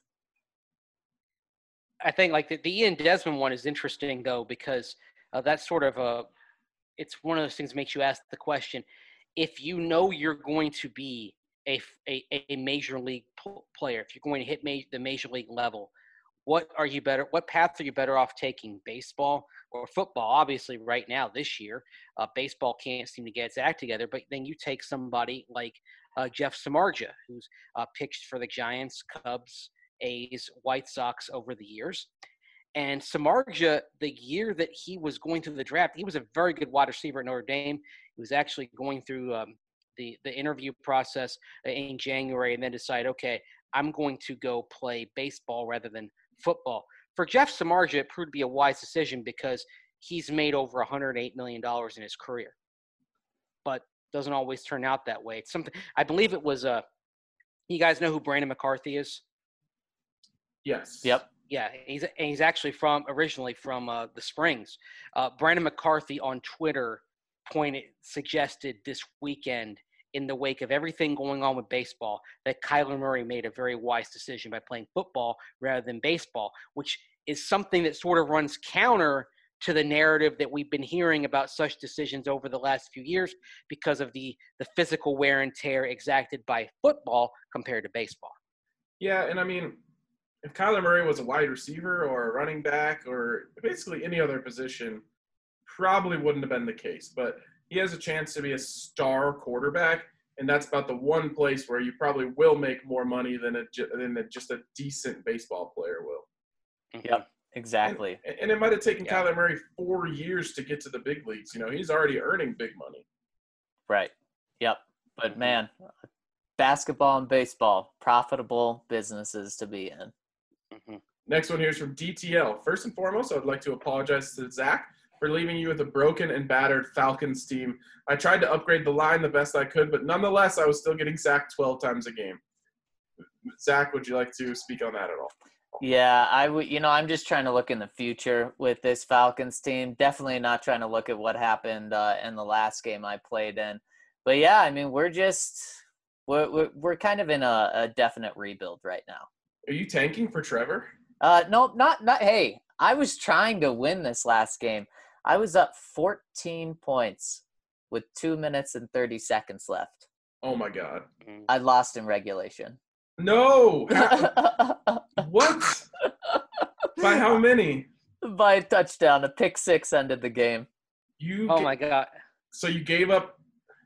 I think like the, the Ian Desmond one is interesting though, because uh, that's sort of a, it's one of those things that makes you ask the question, if you know you're going to be a, a, a major league p- player, if you're going to hit ma- the major league level, what are you better, what path are you better off taking, baseball or football? Obviously right now, this year, uh, baseball can't seem to get its act together, but then you take somebody like uh, Jeff Samardzija, who's uh, pitched for the Giants, Cubs, A's, White Sox over the years. And Samardzija, the year that he was going through the draft, he was a very good wide receiver at Notre Dame. He was actually going through um, the, the interview process in January and then decided, okay, I'm going to go play baseball rather than football. For Jeff Samardzija, it proved to be a wise decision because he's made over one hundred eight million dollars in his career. But doesn't always turn out that way. It's something, I believe it was, uh, you guys know who Brandon McCarthy is? Yes. Yep. Yeah, he's and he's actually from originally from uh, the Springs. Uh, Brandon McCarthy on Twitter pointed suggested this weekend, in the wake of everything going on with baseball, that Kyler Murray made a very wise decision by playing football rather than baseball, which is something that sort of runs counter to the narrative that we've been hearing about such decisions over the last few years because of the the physical wear and tear exacted by football compared to baseball. Yeah, and I mean, if Kyler Murray was a wide receiver or a running back or basically any other position, probably wouldn't have been the case. But he has a chance to be a star quarterback, and that's about the one place where you probably will make more money than a, than a, just a decent baseball player will. Yep. Exactly. And, and it might have taken Yeah. Kyler Murray four years to get to the big leagues. You know, he's already earning big money. Right. Yep. But man, basketball and baseball, profitable businesses to be in. Mm-hmm. Next one here is from D T L. First and foremost, I would like to apologize to Zach for leaving you with a broken and battered Falcons team. I tried to upgrade the line the best I could, but nonetheless, I was still getting sacked twelve times a game. Zach, would you like to speak on that at all? Yeah, I would. You know, I'm just trying to look in the future with this Falcons team. Definitely not trying to look at what happened uh, in the last game I played in. But yeah, I mean, we're just we're we're, we're kind of in a, a definite rebuild right now. Are you tanking for Trevor? Uh, no, not not. Hey, I was trying to win this last game. I was up fourteen points with two minutes and thirty seconds left. Oh my God. I lost in regulation. No. What? By how many? By a touchdown. A pick six ended the game. You. Oh ga- my God. So you gave up.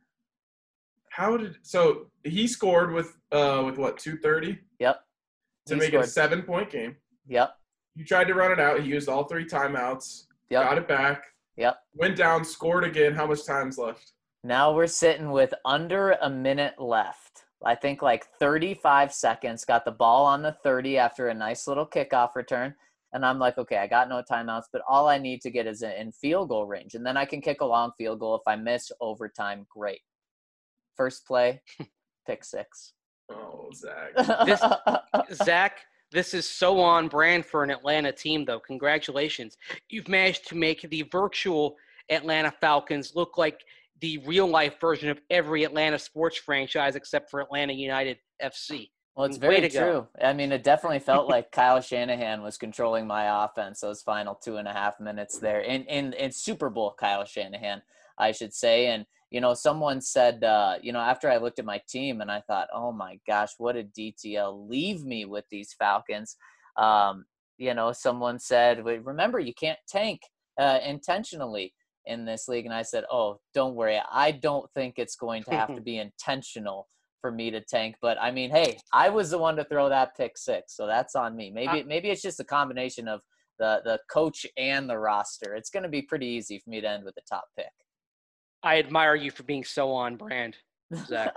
How did so he scored with uh with what two thirty Yep. to He make it a scored. seven point game. Yep. You tried to run it out. He used all three timeouts. Yep. Got it back. Yep. Went down. Scored again. How much time's left? Now we're sitting with under a minute left. I think like thirty-five seconds. Got the ball on the thirty after a nice little kickoff return. And I'm like, okay, I got no timeouts, but all I need to get is in field goal range. And then I can kick a long field goal. If I miss overtime, great. First play, pick six. Oh, Zach. This- Zach, this is so on brand for an Atlanta team, though. Congratulations. You've managed to make the virtual Atlanta Falcons look like the real-life version of every Atlanta sports franchise except for Atlanta United F C. Well, it's Way very to go. true. I mean, it definitely felt like Kyle Shanahan was controlling my offense those final two and a half minutes there. In in, in Super Bowl Kyle Shanahan, I should say. And, you know, someone said, uh, you know, after I looked at my team and I thought, oh, my gosh, what did D T L leave me with these Falcons? Um, you know, someone said, remember, you can't tank uh, intentionally in this league. And I said, oh, don't worry. I don't think it's going to have to be intentional for me to tank. But I mean, hey, I was the one to throw that pick six, so that's on me. Maybe maybe it's just a combination of the the coach and the roster. It's going to be pretty easy for me to end with the top pick. I admire you for being so on brand, Zach.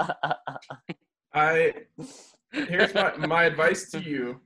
I here's my my advice to you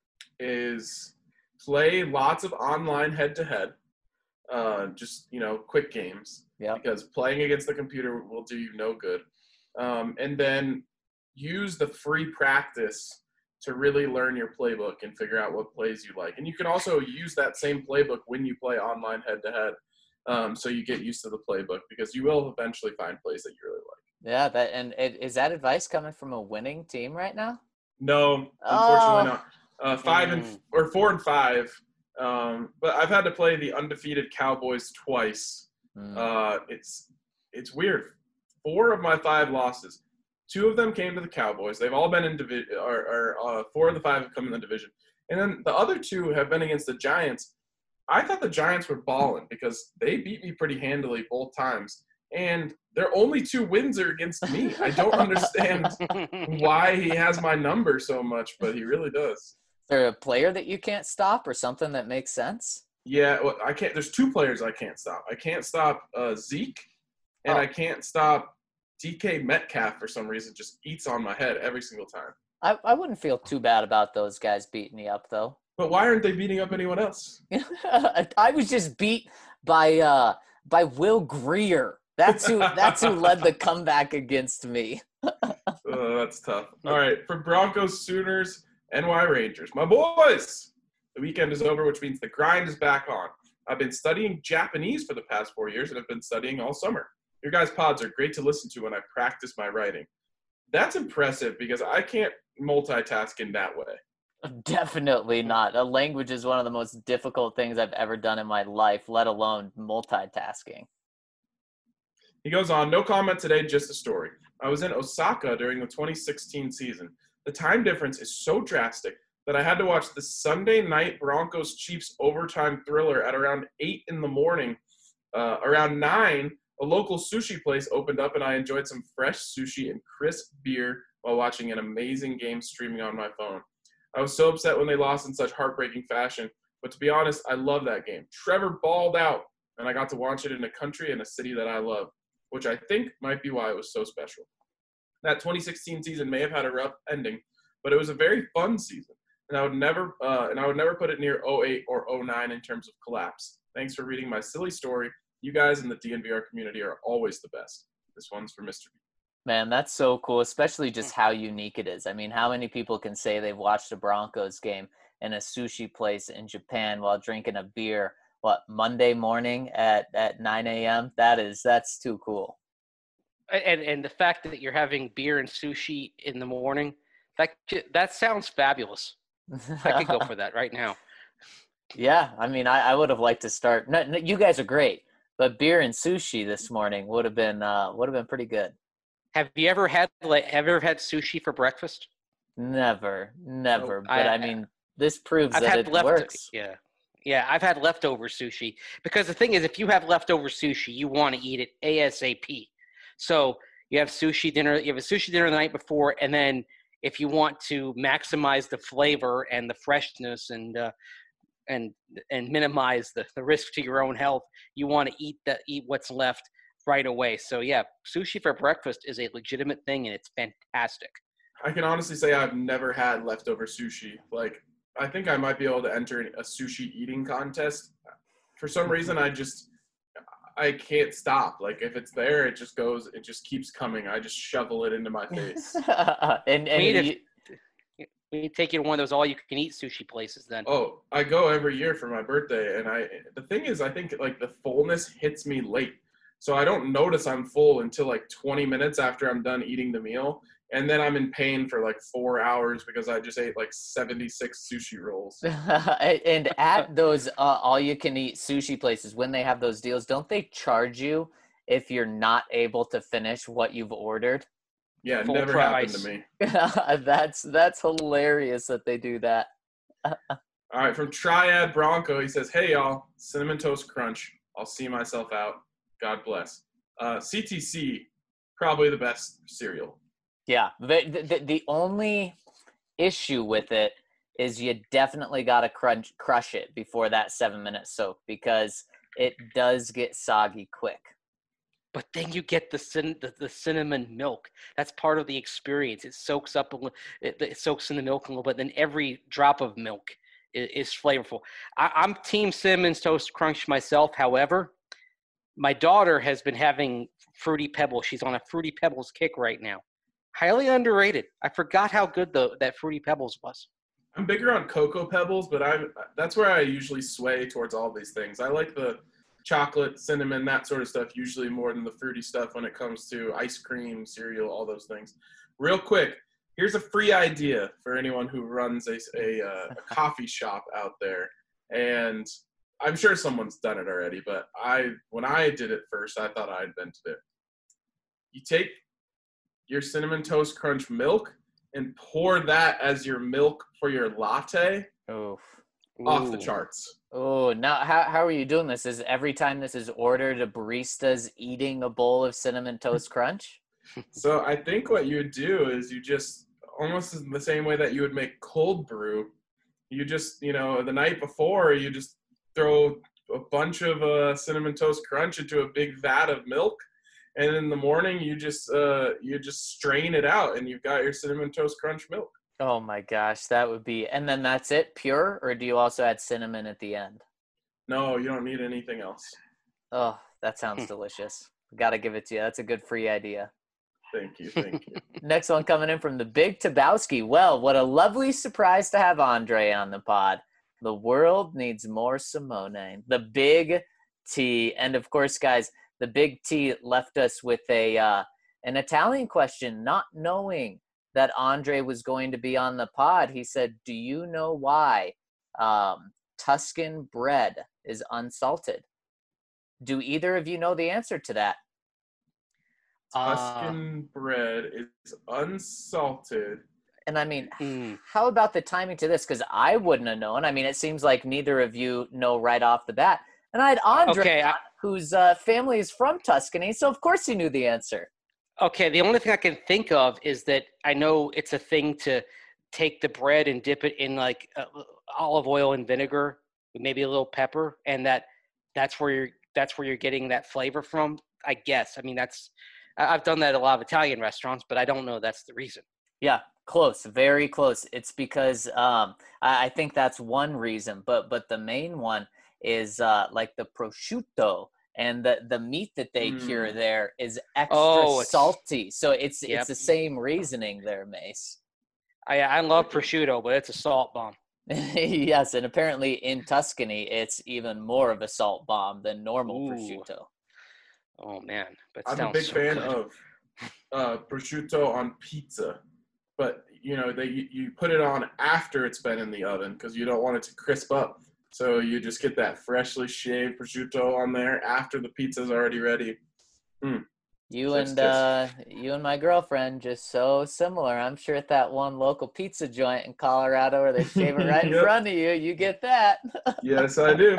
is play lots of online head-to-head, uh, just, you know, quick games. Yeah. Because playing against the computer will do you no good. Um, and then use the free practice to really learn your playbook and figure out what plays you like. And you can also use that same playbook when you play online head-to-head, um, so you get used to the playbook, because you will eventually find plays that you really like. Yeah, that and it, is that advice coming from a winning team right now? No, unfortunately Oh. not. Uh, five and Mm. or four and five. Um, but I've had to play the undefeated Cowboys twice. Mm. Uh, it's it's weird. Four of my five losses, two of them came to the Cowboys. They've all been in division, or, or uh, four of the five have come in the division, and then the other two have been against the Giants. I thought the Giants were balling because they beat me pretty handily both times, and their only two wins are against me. I don't understand why he has my number so much, but he really does. Is there a player that you can't stop or something that makes sense? Yeah, well, I can't. There's two players I can't stop. I can't stop uh, Zeke, and Oh. I can't stop D K Metcalf for some reason. Just eats on my head every single time. I, I wouldn't feel too bad about those guys beating you up, though. But why aren't they beating up anyone else? I was just beat by uh, by Will Greer. That's who that's who led the comeback against me. Uh, that's tough. All right, for Broncos, Sooners, N Y Rangers, my boys. The weekend is over, which means the grind is back on. I've been studying Japanese for the past four years, and have been studying all summer. Your guys' pods are great to listen to when I practice my writing. That's impressive because I can't multitask in that way. Definitely not. A language is one of the most difficult things I've ever done in my life, let alone multitasking. He goes on, no comment today, just a story. I was in Osaka during the twenty sixteen season. The time difference is so drastic that I had to watch the Sunday night Broncos-Chiefs overtime thriller at around eight in the morning. Uh, around nine, a local sushi place opened up, and I enjoyed some fresh sushi and crisp beer while watching an amazing game streaming on my phone. I was so upset when they lost in such heartbreaking fashion, but to be honest, I love that game. Trevor balled out, and I got to watch it in a country and a city that I love, which I think might be why it was so special. That twenty sixteen season may have had a rough ending, but it was a very fun season, and I would never uh, and I would never put it near oh eight or oh nine in terms of collapse. Thanks for reading my silly story. You guys in the D N V R community are always the best. This one's for Mister B. Man, that's so cool, especially just how unique it is. I mean, how many people can say they've watched a Broncos game in a sushi place in Japan while drinking a beer, what, Monday morning at, at nine a.m.? That is, that's too cool. and and the fact that you're having beer and sushi in the morning, that that sounds fabulous. I could go for that right now. Yeah, I mean, I, I would have liked to start. No, no, you guys are great, but beer and sushi this morning would have been uh, would have been pretty good. Have you ever had like have you ever had sushi for breakfast? Never, never. Oh, but I, I- mean, this proves I've that had it left works. yeah. Yeah, I've had leftover sushi because the thing is, if you have leftover sushi, you want to eat it ASAP. So you have sushi dinner, you have a sushi dinner the night before, and then if you want to maximize the flavor and the freshness and uh, and and minimize the, the risk to your own health, you want to eat the eat what's left right away. So yeah, sushi for breakfast is a legitimate thing, and it's fantastic. I can honestly say I've never had leftover sushi. Like, I think I might be able to enter a sushi eating contest. For some reason, I just, I can't stop. Like, if it's there, it just goes, it just keeps coming. I just shovel it into my face. and and We need, you, to, we need to take you to one of those all-you-can-eat sushi places then. Oh, I go every year for my birthday. And I, the thing is, I think, like, the fullness hits me late. So I don't notice I'm full until, like, twenty minutes after I'm done eating the meal. And then I'm in pain for like four hours because I just ate like seventy-six sushi rolls. and at those uh, all-you-can-eat sushi places, when they have those deals, don't they charge you if you're not able to finish what you've ordered? Yeah, it Full never price. happened to me. that's that's hilarious that they do that. All right, from Triad Bronco, he says, "Hey y'all, Cinnamon Toast Crunch. I'll see myself out. God bless." Uh, C T C, probably the best cereal. Yeah, the, the the only issue with it is you definitely got to crunch crush it before that seven minute soak because it does get soggy quick. But then you get the, cin- the the cinnamon milk. That's part of the experience. It soaks up a little. It, it soaks in the milk a little bit. Then every drop of milk is, is flavorful. I, I'm Team Cinnamon Toast Crunch myself. However, my daughter has been having Fruity Pebbles. She's on a Fruity Pebbles kick right now. Highly underrated. I forgot how good the that Fruity Pebbles was. I'm bigger on Cocoa Pebbles, but I'm that's where I usually sway towards all these things. I like the chocolate, cinnamon, that sort of stuff usually more than the fruity stuff when it comes to ice cream, cereal, all those things. Real quick, here's a free idea for anyone who runs a, a, uh, a coffee shop out there. And I'm sure someone's done it already, but I when I did it first, I thought I invented it. You take your Cinnamon Toast Crunch milk and pour that as your milk for your latte. Oof. Off the Ooh. charts. Oh, now how how are you doing this? Is every time this is ordered, a barista's eating a bowl of Cinnamon Toast Crunch? So I think what you would do is you just almost in the same way that you would make cold brew. You just, you know, the night before, you just throw a bunch of uh, Cinnamon Toast Crunch into a big vat of milk. And in the morning, you just uh, you just strain it out, and you've got your Cinnamon Toast Crunch milk. Oh my gosh, that would be, and then that's it, pure, or do you also add cinnamon at the end? No, you don't need anything else. Oh, that sounds delicious. Got to give it to you. That's a good free idea. Thank you, thank you. Next one coming in from the Big Tabowski. Well, what a lovely surprise to have Andre on the pod. The world needs more Simone. The Big T, and of course, guys, the Big T left us with a uh, an Italian question, not knowing that Andre was going to be on the pod. He said, do you know why um, Tuscan bread is unsalted? Do either of you know the answer to that? Tuscan uh, bread is unsalted. And I mean, mm. how about the timing to this? Because I wouldn't have known. I mean, it seems like neither of you know right off the bat. And I had Andre, okay, I- whose uh, family is from Tuscany, so of course he knew the answer. Okay, the only thing I can think of is that I know it's a thing to take the bread and dip it in like uh, olive oil and vinegar, maybe a little pepper, and that that's where you're that's where you're getting that flavor from. I guess. I mean, that's I've done that at a lot of Italian restaurants, but I don't know that's the reason. Yeah, close, very close. It's because um, I, I think that's one reason, but but the main one is uh, like the prosciutto. And the, the meat that they mm. cure there is extra oh, salty. So it's yep. it's the same reasoning there, Mace. I I love prosciutto, but it's a salt bomb. Yes, and apparently in Tuscany, it's even more of a salt bomb than normal Ooh. prosciutto. Oh, man. But I'm a big so fan good. of uh, prosciutto on pizza. But, you know, they you, you put it on after it's been in the oven because you don't want it to crisp up. So you just get that freshly shaved prosciutto on there after the pizza's already ready. Mm. You Chef's and uh, you and my girlfriend just so similar. I'm sure at that one local pizza joint in Colorado where they shave it right in Yep. front of you, you get that. Yes, I do.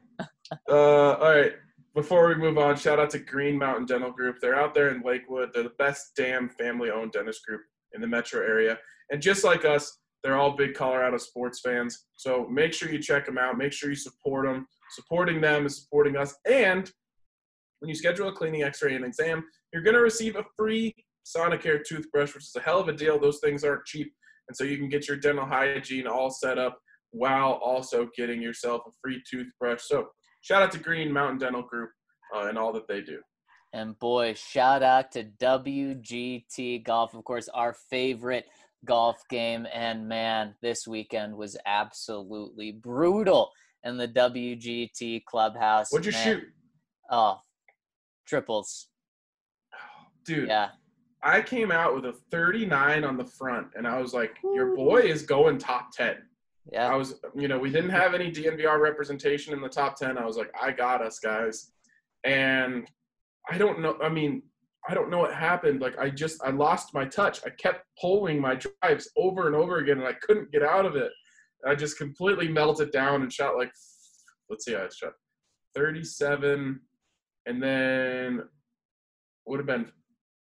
uh, all right. Before we move on, shout out to Green Mountain Dental Group. They're out there in Lakewood. They're the best damn family-owned dentist group in the metro area. And just like us, they're all big Colorado sports fans. So make sure you check them out. Make sure you support them. Supporting them is supporting us. And when you schedule a cleaning, x-ray, and exam, you're going to receive a free Sonicare toothbrush, which is a hell of a deal. Those things aren't cheap. And so you can get your dental hygiene all set up while also getting yourself a free toothbrush. So shout out to Green Mountain Dental Group uh, and all that they do. And boy, shout out to W G T Golf, of course, our favorite golf game. And man, this weekend was absolutely brutal in the W G T clubhouse. What'd you man. shoot? Oh, triples. Dude, Yeah. I came out with a thirty-nine on the front, and I was like, your boy is going top ten. Yeah. I was, you know, we didn't have any D N V R representation in the top ten. I was like, I got us, guys. And I don't know. I mean, I don't know what happened. Like, I just, I lost my touch. I kept pulling my drives over and over again, and I couldn't get out of it. I just completely melted down and shot like, let's see, I shot thirty-seven, and then would have been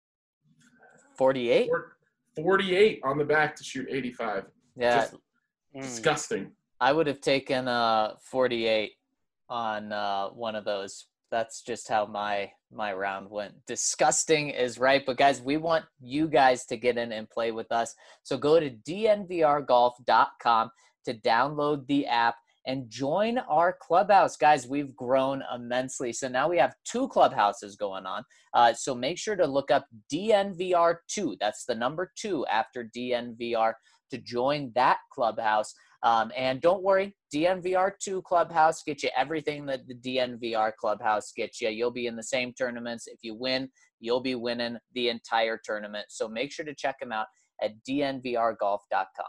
forty-eight? forty-eight on the back to shoot eighty-five. Yeah. Just Mm. Disgusting. I would have taken uh forty-eight on uh, one of those. That's just how my my round went. Disgusting is right, but guys, we want you guys to get in and play with us. So go to D N V R golf dot com to download the app and join our clubhouse. Guys, we've grown immensely. So now we have two clubhouses going on. Uh, so make sure to look up D N V R two. That's the number two after D N V R to join that clubhouse. Um, and don't worry, D N V R two Clubhouse gets you everything that the D N V R Clubhouse gets you. You'll be in the same tournaments. If you win, you'll be winning the entire tournament. So make sure to check them out at D N V R golf dot com.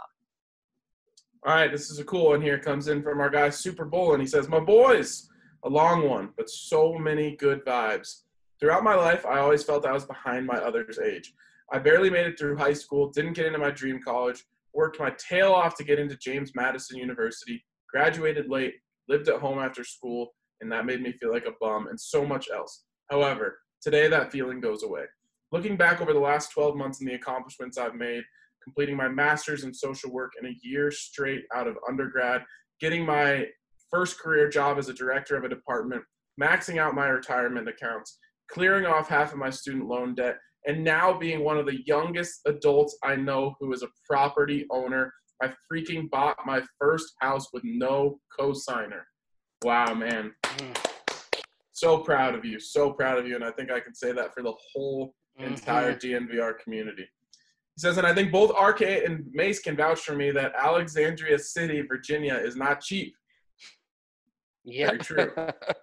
All right, this is a cool one here. Comes in from our guy Super Bowl, and he says, my boys, a long one, but so many good vibes. Throughout my life, I always felt I was behind my other's age. I barely made it through high school, didn't get into my dream college, worked my tail off to get into James Madison University, graduated late, lived at home after school, and that made me feel like a bum, and so much else. However, today that feeling goes away. Looking back over the last twelve months and the accomplishments I've made, completing my master's in social work in a year straight out of undergrad, getting my first career job as a director of a department, maxing out my retirement accounts, clearing off half of my student loan debt, and now being one of the youngest adults I know who is a property owner. I freaking bought my first house with no co-signer. Wow, man. So proud of you. So proud of you. And I think I can say that for the whole entire D N V R community. He says, and I think both R K and Mace can vouch for me that Alexandria City, Virginia is not cheap. Yeah. Very true.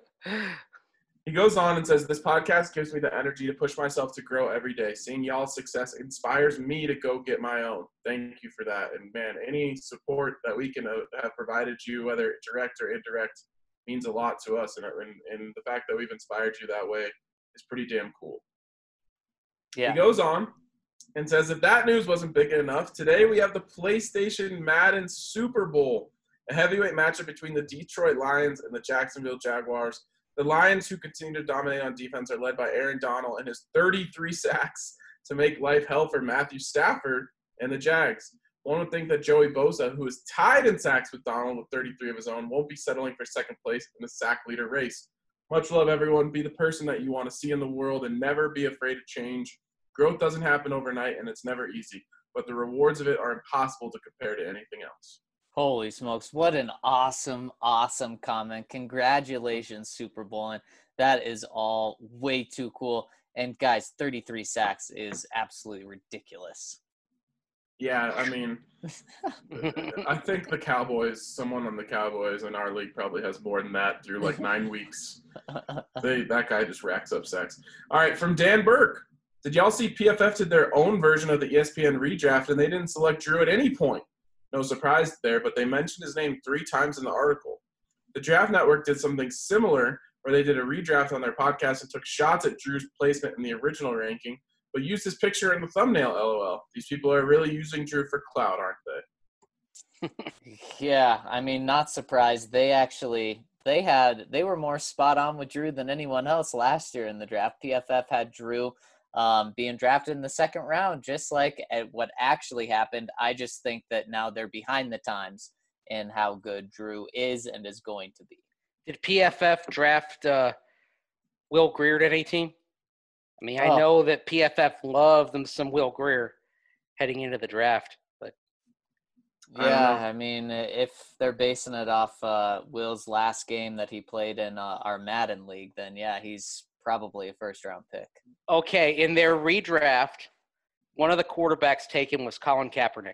He goes on and says, this podcast gives me the energy to push myself to grow every day. Seeing y'all's success inspires me to go get my own. Thank you for that. And, man, any support that we can have provided you, whether direct or indirect, means a lot to us. And, and, and the fact that we've inspired you that way is pretty damn cool. Yeah. He goes on and says, if that news wasn't big enough, today we have the PlayStation Madden Super Bowl, a heavyweight matchup between the Detroit Lions and the Jacksonville Jaguars. The Lions, who continue to dominate on defense, are led by Aaron Donald and his thirty-three sacks to make life hell for Matthew Stafford and the Jags. One would think that Joey Bosa, who is tied in sacks with Donald with thirty-three of his own, won't be settling for second place in the sack leader race. Much love, everyone. Be the person that you want to see in the world and never be afraid of change. Growth doesn't happen overnight, and it's never easy, but the rewards of it are impossible to compare to anything else. Holy smokes. What an awesome, awesome comment. Congratulations, Super Bowl. And that is all way too cool. And, guys, thirty-three sacks is absolutely ridiculous. Yeah, I mean, I think the Cowboys, someone on the Cowboys in our league probably has more than that through like nine weeks. They, that guy just racks up sacks. All right, from Dan Burke. Did y'all see P F F did their own version of the E S P N redraft, and they didn't select Drew at any point? No surprise there, but they mentioned his name three times in the article. The Draft Network did something similar where they did a redraft on their podcast and took shots at Drew's placement in the original ranking, but used his picture in the thumbnail, LOL. These people are really using Drew for clout, aren't they? Yeah, I mean, not surprised. They actually they had they were more spot on with Drew than anyone else last year in the draft. P F F had Drew um, being drafted in the second round, just like at what actually happened. I just think that now they're behind the times in how good Drew is and is going to be. Did P F F draft uh, Will Grier at any team? I mean, I Oh. know that P F F loved them some Will Grier heading into the draft, but I don't Yeah, know. I mean, if they're basing it off uh, Will's last game that he played in uh, our Madden league, then yeah, he's probably a first-round pick. okay, in their redraft, one of the quarterbacks taken was Colin Kaepernick.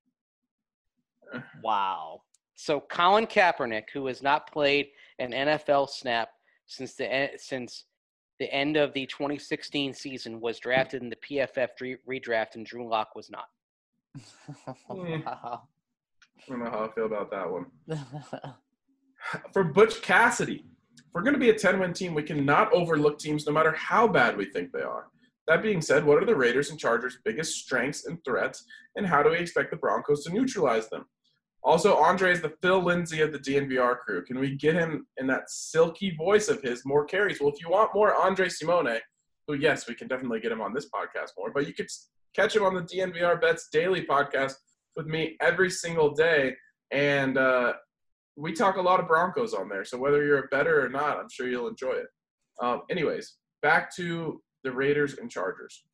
Wow. So Colin Kaepernick, who has not played an N F L snap since the en- since the end of the twenty sixteen season, was drafted in the P F F re- redraft, and Drew Lock was not. Wow. I don't know how I feel about that one. For Butch Cassidy, if we're going to be a ten-win team, we cannot overlook teams no matter how bad we think they are. That being said, what are the Raiders and Chargers' biggest strengths and threats, and how do we expect the Broncos to neutralize them? Also, Andre is the Phil Lindsay of the D N V R crew. Can we get him in that silky voice of his more carries? Well, if you want more Andre Simone, who, yes, we can definitely get him on this podcast more, but you could catch him on the D N V R Bets Daily podcast with me every single day. And uh, we talk a lot of Broncos on there. So whether you're a bettor or not, I'm sure you'll enjoy it. Um, anyways, back to the Raiders and Chargers.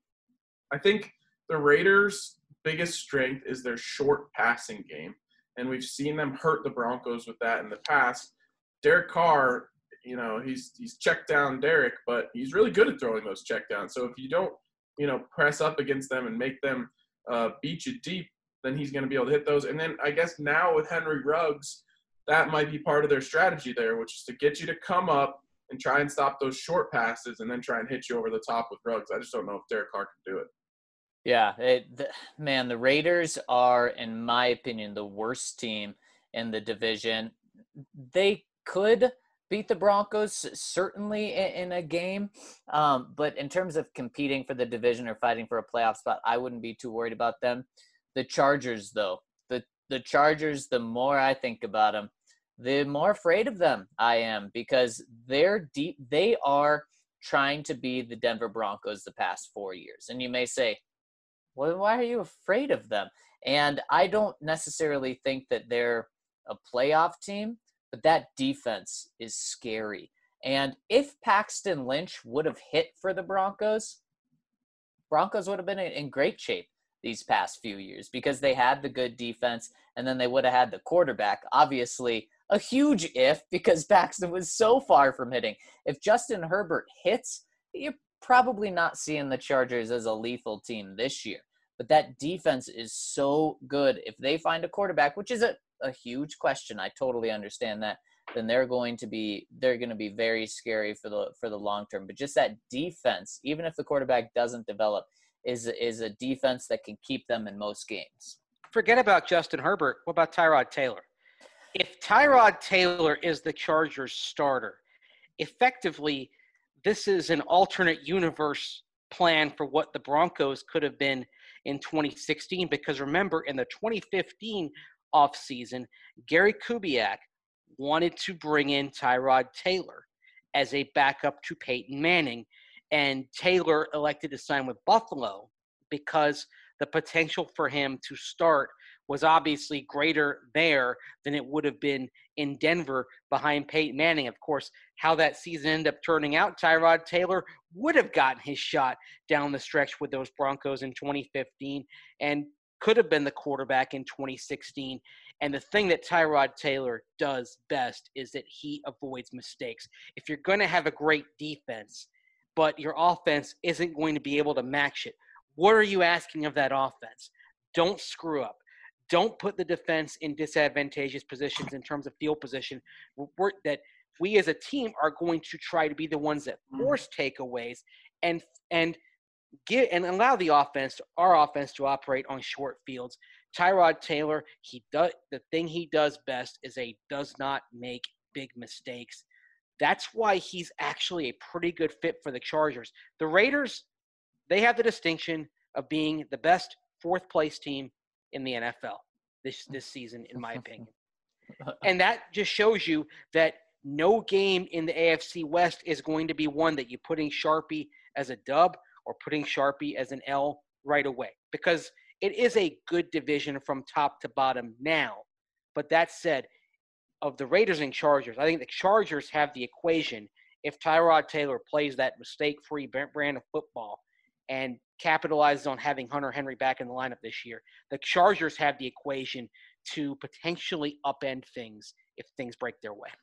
I think the Raiders' biggest strength is their short passing game. And we've seen them hurt the Broncos with that in the past. Derek Carr, you know, he's he's checked down Derek, but he's really good at throwing those check downs. So if you don't, you know, press up against them and make them uh, beat you deep, then he's going to be able to hit those. And then I guess now with Henry Ruggs, that might be part of their strategy there, which is to get you to come up and try and stop those short passes and then try and hit you over the top with Ruggs. I just don't know if Derek Carr can do it. Yeah, it, the, man, the Raiders are, in my opinion, the worst team in the division. They could beat the Broncos, certainly in, in a game, um, but in terms of competing for the division or fighting for a playoff spot, I wouldn't be too worried about them. The Chargers, though, the, the Chargers, the more I think about them, the more afraid of them I am, because they're deep. They are trying to be the Denver Broncos the past four years. And you may say, well, why are you afraid of them? And I don't necessarily think that they're a playoff team, but that defense is scary. And if Paxton Lynch would have hit for the Broncos, Broncos would have been in great shape these past few years because they had the good defense, and then they would have had the quarterback. Obviously, a huge if, because Paxton was so far from hitting. If Justin Herbert hits, you're probably not seeing the Chargers as a lethal team this year. But that defense is so good. If they find a quarterback, which is a, a huge question, I totally understand that, then they're going to be they're going to be very scary for the for the long term. But just that defense, even if the quarterback doesn't develop, is is a defense that can keep them in most games. Forget about Justin Herbert. What about Tyrod Taylor? If Tyrod Taylor is the Chargers starter, effectively, this is an alternate universe plan for what the Broncos could have been in twenty sixteen. Because remember, in the twenty fifteen offseason, Gary Kubiak wanted to bring in Tyrod Taylor as a backup to Peyton Manning. And Taylor elected to sign with Buffalo because the potential for him to start was obviously greater there than it would have been in Denver behind Peyton Manning. Of course, how that season ended up turning out, Tyrod Taylor would have gotten his shot down the stretch with those Broncos in twenty fifteen and could have been the quarterback in twenty sixteen. And the thing that Tyrod Taylor does best is that he avoids mistakes. If you're going to have a great defense, but your offense isn't going to be able to match it, what are you asking of that offense? Don't screw up. Don't put the defense in disadvantageous positions in terms of field position. We're, that we as a team are going to try to be the ones that force takeaways and and get and allow the offense, our offense, to operate on short fields. Tyrod Taylor, he does the thing he does best is a does not make big mistakes. That's why he's actually a pretty good fit for the Chargers. The Raiders, they have the distinction of being the best fourth place team in the N F L this this season, in my opinion. And that just shows you that no game in the A F C West is going to be one that you're putting Sharpie as a dub or putting Sharpie as an L right away, because it is a good division from top to bottom now. But that said, of the Raiders and Chargers, I think the Chargers have the equation if Tyrod Taylor plays that mistake-free brand of football and capitalizes on having Hunter Henry back in the lineup this year. The Chargers have the equation to potentially upend things if things break their way.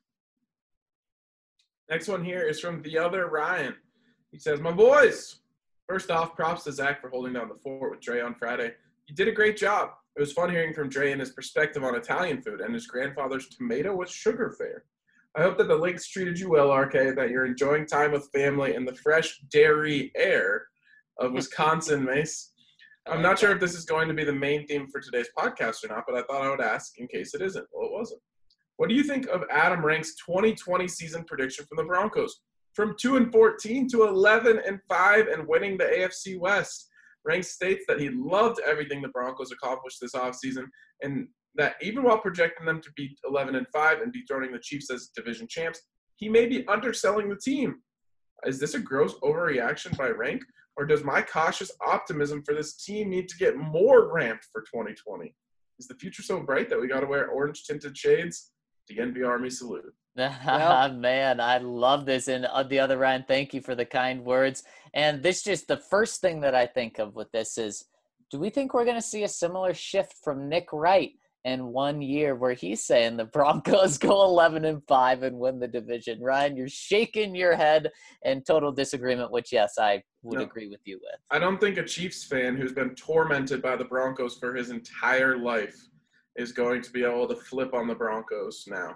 Next one here is from the other Ryan. He says, my boys, first off, props to Zach for holding down the fort with Dre on Friday. You did a great job. It was fun hearing from Dre and his perspective on Italian food and his grandfather's tomato with sugar fare. I hope that the Lynx treated you well, R K, that you're enjoying time with family in the fresh dairy air of Wisconsin, Mace. I'm not sure if this is going to be the main theme for today's podcast or not, but I thought I would ask in case it isn't. Well, it wasn't. What do you think of Adam Rank's twenty twenty season prediction from the Broncos? From two and fourteen to eleven and five and winning the A F C West. Rank states that he loved everything the Broncos accomplished this offseason, and that even while projecting them to be eleven and five and dethroning the Chiefs as division champs, he may be underselling the team. Is this a gross overreaction by Rank, or does my cautious optimism for this team need to get more ramped for twenty twenty? is the future so bright that we got to wear orange tinted shades? The N B Army salute. Well, man, I love this. And on the other end, thank you for the kind words. And this just the first thing that I think of with this is, do we think we're going to see a similar shift from Nick Wright in one year where he's saying the Broncos go eleven and five and win the division? Ryan, you're shaking your head in total disagreement, which, yes, I would No. agree with you with. I don't think a Chiefs fan who's been tormented by the Broncos for his entire life is going to be able to flip on the Broncos now.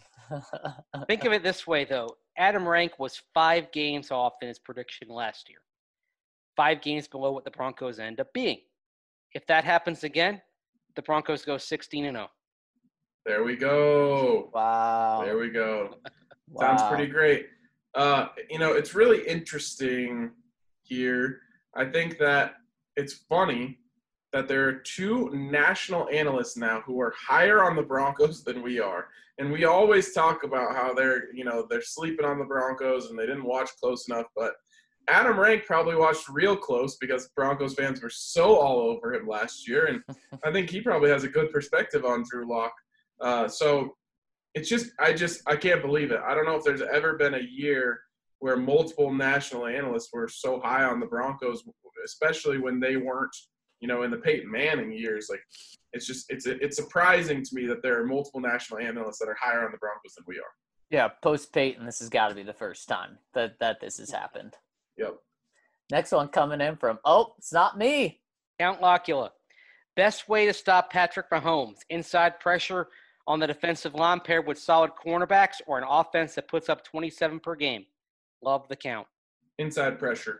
Think of it this way, though. Adam Rank was five games off in his prediction last year. Five games below what the Broncos end up being. If that happens again, the Broncos go sixteen and oh. There we go. Wow. There we go. Wow. Sounds pretty great. Uh, you know, it's really interesting here. I think that it's funny that there are two national analysts now who are higher on the Broncos than we are. And we always talk about how they're, you know, they're sleeping on the Broncos and they didn't watch close enough. But Adam Rank probably watched real close because Broncos fans were so all over him last year. And I think he probably has a good perspective on Drew Lock. Uh, so it's just, I just, I can't believe it. I don't know if there's ever been a year where multiple national analysts were so high on the Broncos, especially when they weren't, you know, in the Peyton Manning years. Like, it's just, it's it's surprising to me that there are multiple national analysts that are higher on the Broncos than we are. Yeah, post Peyton, this has got to be the first time that, that this has happened. Yep. Next one coming in from, oh, it's not me. Count Locula. Best way to stop Patrick Mahomes, inside pressure on the defensive line paired with solid cornerbacks, or an offense that puts up twenty-seven per game. Love the count. Inside pressure.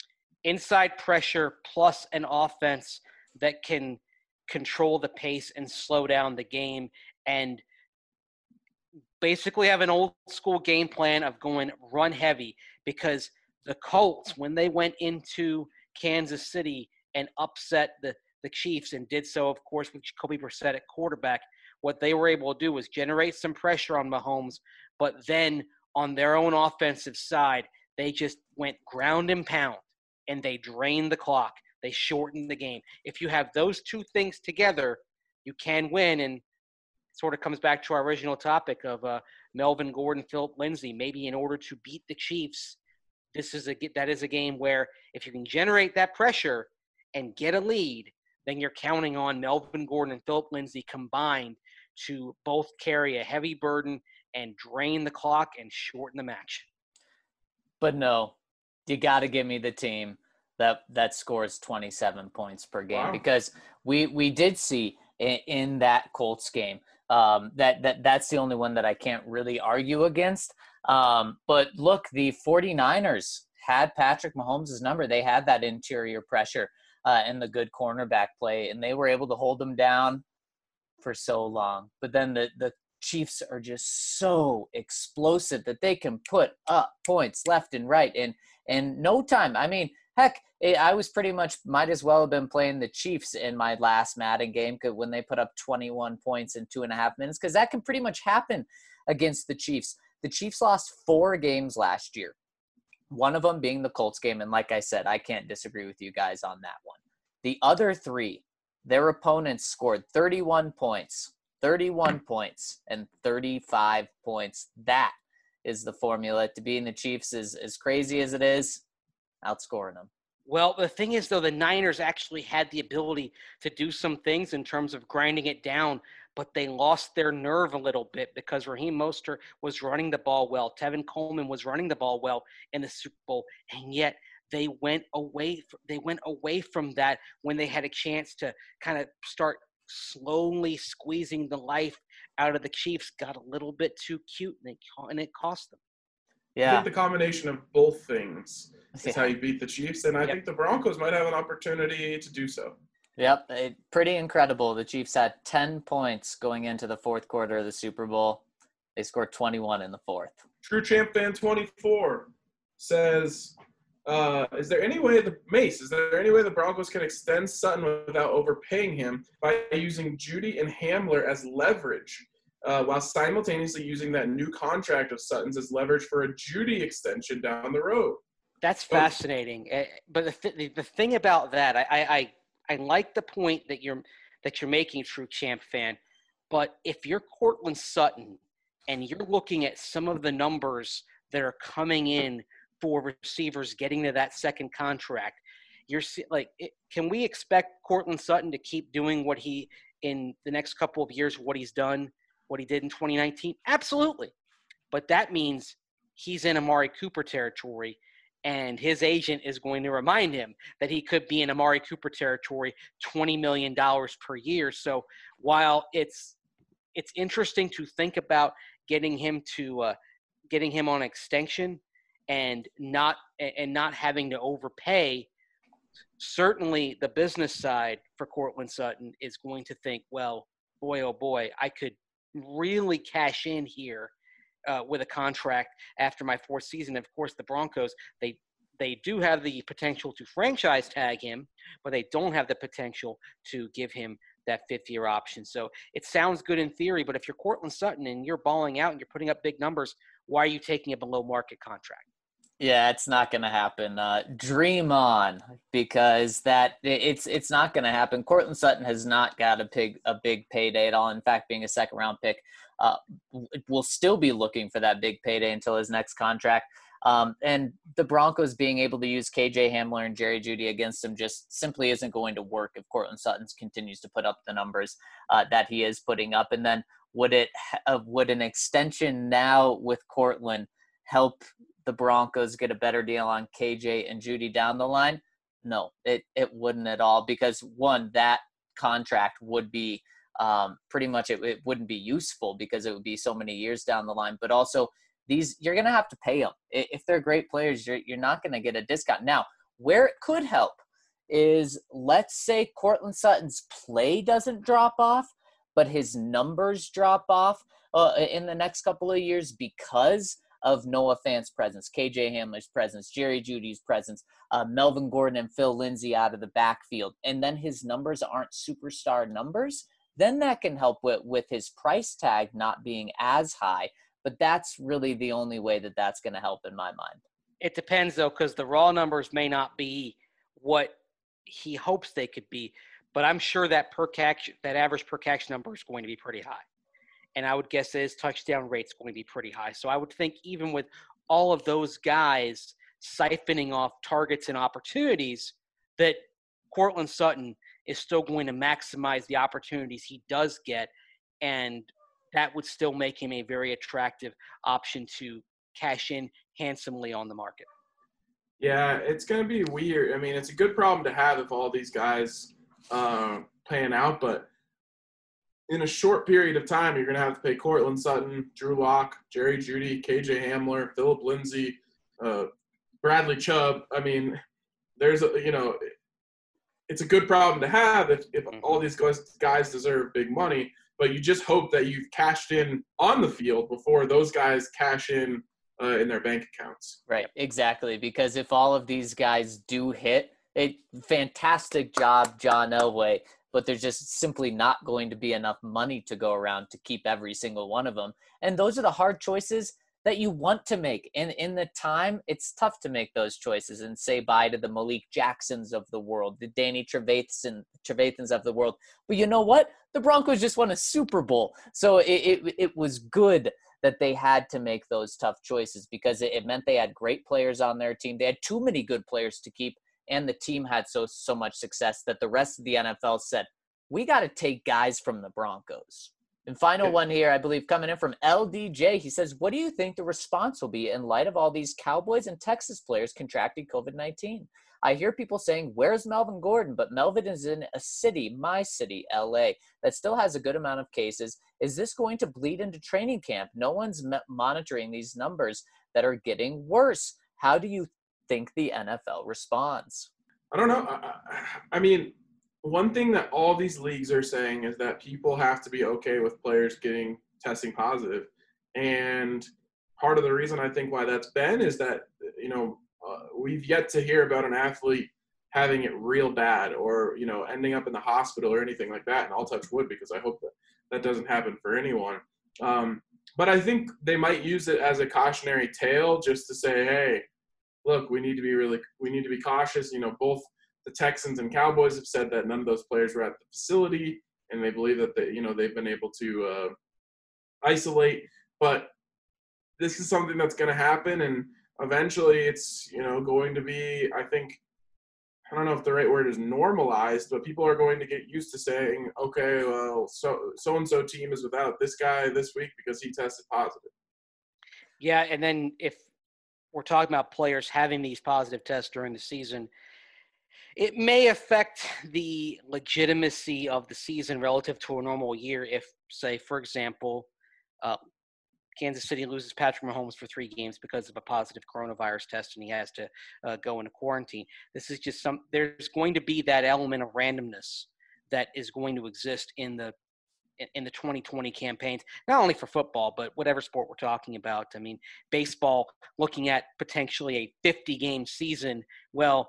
Inside pressure plus an offense that can control the pace and slow down the game and basically have an old school game plan of going run heavy, because the Colts, when they went into Kansas City and upset the, the Chiefs and did so, of course, with Jacoby Brissett at quarterback, what they were able to do was generate some pressure on Mahomes, but then on their own offensive side, they just went ground and pound, and they drained the clock. They shortened the game. If you have those two things together, you can win. And it sort of comes back to our original topic of uh, Melvin Gordon, Philip Lindsay. Maybe in order to beat the Chiefs, this is a that is a game where if you can generate that pressure and get a lead, then you're counting on Melvin Gordon and Philip Lindsay combined to both carry a heavy burden and drain the clock and shorten the match. But no, you got to give me the team that that scores twenty-seven points per game. Wow. Because we we did see in, in that Colts game um, that that that's the only one that I can't really argue against. Um, but look, the 49ers had Patrick Mahomes' number. They had that interior pressure uh, and the good cornerback play, and they were able to hold them down for so long. But then the the Chiefs are just so explosive that they can put up points left and right in in no time. I mean, heck, I was pretty much might as well have been playing the Chiefs in my last Madden game when they put up twenty-one points in two and a half minutes, because that can pretty much happen against the Chiefs. The Chiefs lost four games last year, one of them being the Colts game. And like I said, I can't disagree with you guys on that one. The other three, their opponents scored thirty-one points, thirty-one points, and thirty-five points. That is the formula to beating the Chiefs. Is as crazy as it is, outscoring them. Well, the thing is, though, the Niners actually had the ability to do some things in terms of grinding it down, but they lost their nerve a little bit because Raheem Mostert was running the ball well. Tevin Coleman was running the ball well in the Super Bowl, and yet they went away. They went away from that when they had a chance to kind of start slowly squeezing the life out of the Chiefs. Got a little bit too cute, and it, and it cost them. Yeah, I think the combination of both things is yeah. how you beat the Chiefs, and I yep. think the Broncos might have an opportunity to do so. Yep, it, pretty incredible. The Chiefs had ten points going into the fourth quarter of the Super Bowl. They scored twenty-one in the fourth. True Champ Fan twenty-four says, uh, is there any way the Mace, is there any way the Broncos can extend Sutton without overpaying him by using Judy and Hamler as leverage, uh, while simultaneously using that new contract of Sutton's as leverage for a Judy extension down the road? That's fascinating. But the th- the thing about that, I, I I like the point that you're that you're making a true champ fan. But if you're Cortland Sutton and you're looking at some of the numbers that are coming in for receivers getting to that second contract, you're like, can we expect Cortland Sutton to keep doing what he in the next couple of years, what he's done, what he did in twenty nineteen? Absolutely. But that means he's in Amari Cooper territory, and his agent is going to remind him that he could be in Amari Cooper territory, twenty million dollars per year. So while it's it's interesting to think about getting him to uh, getting him on extension and not and not having to overpay, certainly the business side for Cortland Sutton is going to think, well, boy, oh boy, I could really cash in here uh, with a contract after my fourth season. Of course, the Broncos, they they do have the potential to franchise tag him, but they don't have the potential to give him that fifth-year option. So it sounds good in theory, but if you're Cortland Sutton and you're balling out and you're putting up big numbers, why are you taking a below-market contract? Yeah, it's not going to happen. Uh, dream on, because that it's it's not going to happen. Cortland Sutton has not got a big a big payday at all. In fact, being a second round pick, uh, will still be looking for that big payday until his next contract. Um, and the Broncos being able to use K J Hamler and Jerry Jeudy against him just simply isn't going to work if Cortland Sutton continues to put up the numbers uh, that he is putting up. And then would it uh, would an extension now with Cortland help the Broncos get a better deal on K J and Jeudy down the line? No, it, it wouldn't at all, because one, that contract would be um, pretty much, it, it wouldn't be useful because it would be so many years down the line, but also these, you're going to have to pay them. If they're great players, you're, you're not going to get a discount. Now, where it could help is, let's say Cortland Sutton's play doesn't drop off, but his numbers drop off uh, in the next couple of years because of Noah Fant's presence, K J Hamler's presence, Jerry Jeudy's presence, uh, Melvin Gordon and Phil Lindsay out of the backfield, and then his numbers aren't superstar numbers, then that can help with, with his price tag not being as high. But that's really the only way that that's going to help in my mind. It depends, though, because the raw numbers may not be what he hopes they could be, but I'm sure that per catch, that average per catch number is going to be pretty high. And I would guess that his touchdown rate's going to be pretty high. So I would think even with all of those guys siphoning off targets and opportunities, that Cortland Sutton is still going to maximize the opportunities he does get, and that would still make him a very attractive option to cash in handsomely on the market. Yeah, it's going to be weird. I mean, it's a good problem to have if all these guys uh, pan out, but in a short period of time, you're going to have to pay Cortland Sutton, Drew Lock, Jerry Jeudy, K J Hamler, Philip Lindsay, uh, Bradley Chubb. I mean, there's a, you know, it's a good problem to have if, if all these guys, guys deserve big money, but you just hope that you've cashed in on the field before those guys cash in uh, in their bank accounts. Right, exactly. Because if all of these guys do hit, a fantastic job, John Elway, but there's just simply not going to be enough money to go around to keep every single one of them. And those are the hard choices that you want to make. And in the time, it's tough to make those choices and say bye to the Malik Jacksons of the world, the Danny Trevathan, Trevathans of the world. But you know what? The Broncos just won a Super Bowl. So it, it, it was good that they had to make those tough choices, because it, it meant they had great players on their team. They had too many good players to keep, and the team had so so much success that the rest of the N F L said, we got to take guys from the Broncos. And final one here, I believe, coming in from L D J. He says, what do you think the response will be in light of all these Cowboys and Texas players contracting COVID nineteen? I hear people saying, where's Melvin Gordon? But Melvin is in a city, my city, L A, that still has a good amount of cases. Is this going to bleed into training camp? No one's m- monitoring these numbers that are getting worse. How do you think the N F L responds? I don't know. I, I mean, one thing that all these leagues are saying is that people have to be okay with players getting testing positive. And part of the reason I think why that's been is that, you know, uh, we've yet to hear about an athlete having it real bad or, you know, ending up in the hospital or anything like that. And I'll touch wood because I hope that that doesn't happen for anyone. Um, but I think they might use it as a cautionary tale just to say, hey, look, we need to be really, we need to be cautious. You know, both the Texans and Cowboys have said that none of those players were at the facility. and they believe that they, you know, they've been able to uh, isolate. But this is something that's going to happen, and eventually it's, you know, going to be, I think, I don't know if the right word is normalized, but people are going to get used to saying, okay, well, so so-and-so team is without this guy this week because he tested positive. Yeah, and then if we're talking about players having these positive tests during the season, it may affect the legitimacy of the season relative to a normal year if, say, for example, uh, Kansas City loses Patrick Mahomes for three games because of a positive coronavirus test, and he has to uh, go into quarantine. This is just some – there's going to be that element of randomness that is going to exist in the in the twenty twenty campaigns, not only for football, but whatever sport we're talking about. I mean, baseball, looking at potentially a fifty-game season, well,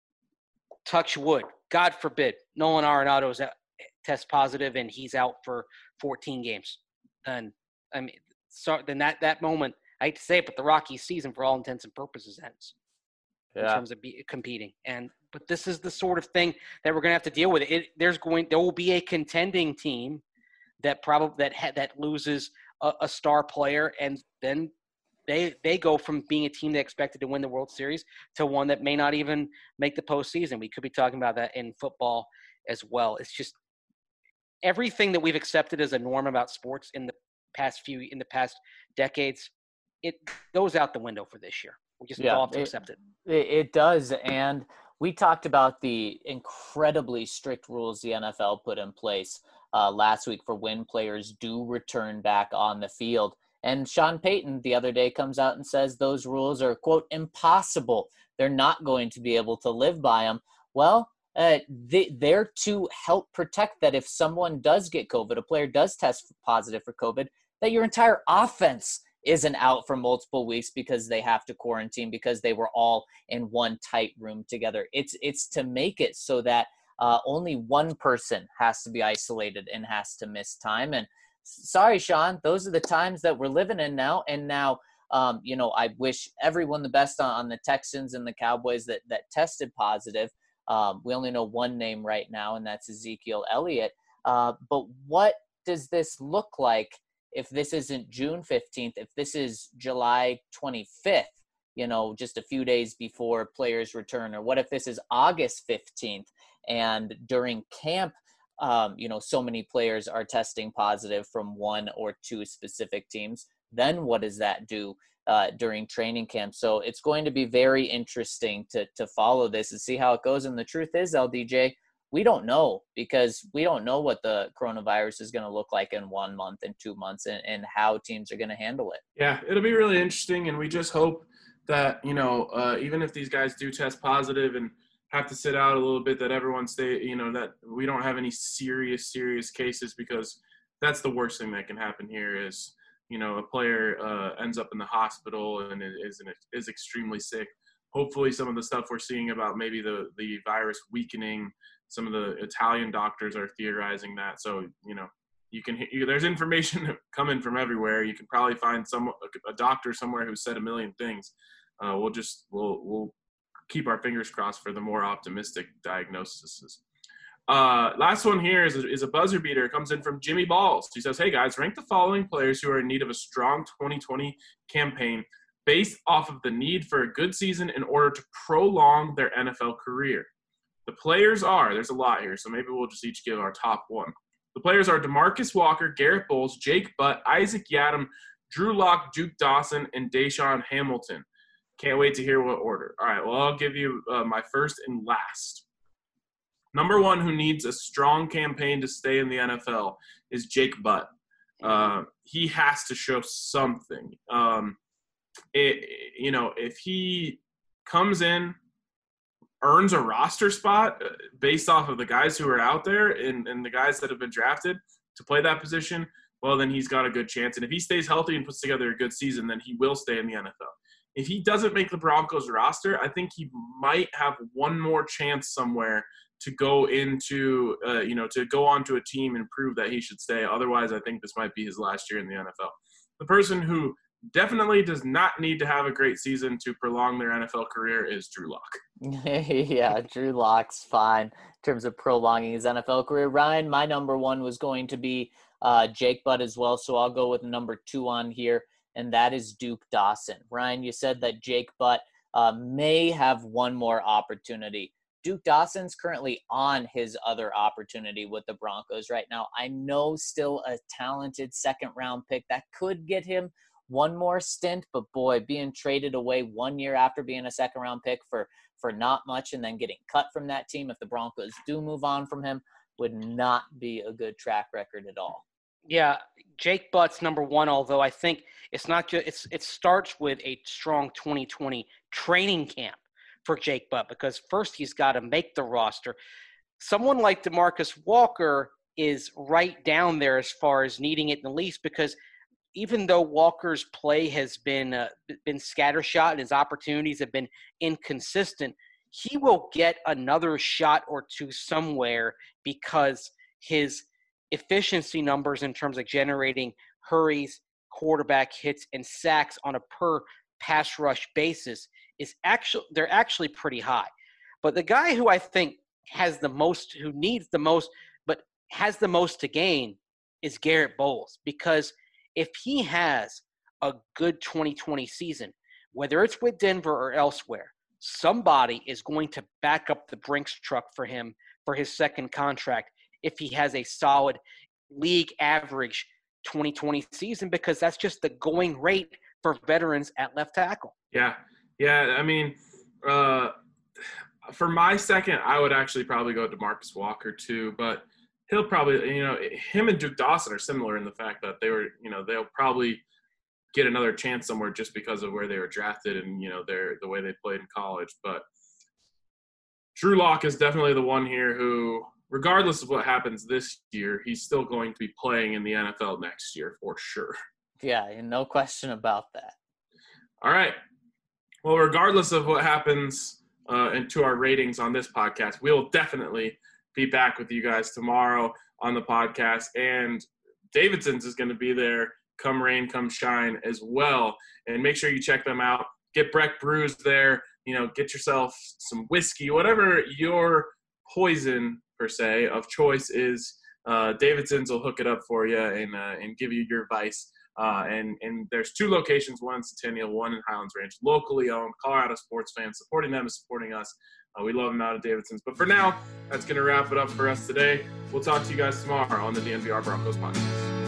touch wood, God forbid, Nolan Arenado's test positive and he's out for fourteen games. And, I mean – So then that, that moment, I hate to say it, but the Rockies season for all intents and purposes ends Yeah. in terms of be, competing. And but this is the sort of thing that we're going to have to deal with. It there's going there will be a contending team that probably that ha, that loses a, a star player, and then they they go from being a team that expected to win the World Series to one that may not even make the postseason. We could be talking about that in football as well. It's just everything that we've accepted as a norm about sports in the past few in the past decades, it goes out the window for this year. We just Yeah, all have to it, accept it. it. It does, and we talked about the incredibly strict rules the N F L put in place uh, last week for when players do return back on the field. And Sean Payton the other day comes out and says those rules are, quote, impossible. They're not going to be able to live by them. Well, uh, they, they're to help protect that if someone does get COVID, a player does test positive for COVID, that your entire offense isn't out for multiple weeks because they have to quarantine because they were all in one tight room together. It's it's to make it so that uh, only one person has to be isolated and has to miss time. And sorry, Sean, those are the times that we're living in now. And now, um, you know, I wish everyone the best on, on the Texans and the Cowboys that that tested positive. Um, we only know one name right now, and that's Ezekiel Elliott. Uh, but what does this look like if this isn't June fifteenth, if this is July twenty-fifth, you know, just a few days before players return? Or what if this is August fifteenth and during camp, um, you know, so many players are testing positive from one or two specific teams? Then what does that do uh, during training camp? So it's going to be very interesting to to follow this and see how it goes. And the truth is, L D J, we don't know, because we don't know what the coronavirus is going to look like in one month and two months and, and how teams are going to handle it. Yeah, it'll be really interesting. And we just hope that, you know, uh, even if these guys do test positive and have to sit out a little bit, that everyone stay, you know, that we don't have any serious, serious cases, because that's the worst thing that can happen here is, you know, a player uh, ends up in the hospital and is, is extremely sick. Hopefully some of the stuff we're seeing about maybe the, the virus weakening, some of the Italian doctors are theorizing that. So, you know, you can, you, there's information coming from everywhere. You can probably find some, a doctor somewhere who said a million things. Uh, we'll just, we'll, we'll keep our fingers crossed for the more optimistic diagnoses. Uh, last one here is a, is a buzzer beater. It comes in from Jimmy Balls. He says, hey guys, rank the following players who are in need of a strong twenty twenty campaign based off of the need for a good season in order to prolong their N F L career. The players are, there's a lot here, so maybe we'll just each give our top one. The players are DeMarcus Walker, Garrett Bowles, Jake Butt, Isaac Yiadom, Drew Lock, Duke Dawson, and Deshaun Hamilton. Can't wait to hear what order. All right, well, I'll give you uh, my first and last. Number one who needs a strong campaign to stay in the N F L is Jake Butt. Uh, he has to show something. Um, it, you know, if he comes in, earns a roster spot based off of the guys who are out there and, and the guys that have been drafted to play that position, well, then he's got a good chance. And if he stays healthy and puts together a good season, then he will stay in the N F L. If he doesn't make the Broncos roster, I think he might have one more chance somewhere to go into, uh, you know, to go onto a team and prove that he should stay. Otherwise, I think this might be his last year in the N F L. The person who definitely does not need to have a great season to prolong their N F L career is Drew Lock. Yeah, Drew Lock's fine in terms of prolonging his N F L career. Ryan, my number one was going to be uh, Jake Butt as well, so I'll go with number two on here, and that is Duke Dawson. Ryan, you said that Jake Butt uh, may have one more opportunity. Duke Dawson's currently on his other opportunity with the Broncos right now. I know still a talented second-round pick that could get him one more stint, but boy, being traded away one year after being a second-round pick for, for not much and then getting cut from that team if the Broncos do move on from him would not be a good track record at all. Yeah, Jake Butt's number one, although I think it's not just it's it starts with a strong twenty twenty training camp for Jake Butt, because first he's got to make the roster. Someone like DeMarcus Walker is right down there as far as needing it in the least, because even though Walker's play has been uh, been scattershot and his opportunities have been inconsistent, he will get another shot or two somewhere because his efficiency numbers in terms of generating hurries, quarterback hits, and sacks on a per pass rush basis is actually they're actually pretty high. But the guy who I think has the most, who needs the most, but has the most to gain is Garrett Bowles, because if he has a good twenty twenty season, whether it's with Denver or elsewhere, somebody is going to back up the Brinks truck for him for his second contract if he has a solid league average twenty twenty season, because that's just the going rate for veterans at left tackle. Yeah. Yeah. I mean, uh, for my second, I would actually probably go DeMarcus Walker too, but he'll probably, you know, him and Duke Dawson are similar in the fact that they were, you know, they'll probably get another chance somewhere just because of where they were drafted and, you know, their, the way they played in college. But Drew Lock is definitely the one here who, regardless of what happens this year, he's still going to be playing in the N F L next year for sure. Yeah, and no question about that. All right. Well, regardless of what happens uh, into our ratings on this podcast, we'll definitely be back with you guys tomorrow on the podcast. And Davidson's is going to be there come rain, come shine as well. And make sure you check them out. Get Breck Brews there. You know, get yourself some whiskey, whatever your poison per se of choice is. Uh, Davidson's will hook it up for you and uh, and give you your vice. Uh, and and there's two locations, one in Centennial, one in Highlands Ranch, locally owned, Colorado sports fans. Supporting them is supporting us. Uh, we love them out of Davidson's. But for now, that's going to wrap it up for us today. We'll talk to you guys tomorrow on the D N V R Broncos podcast.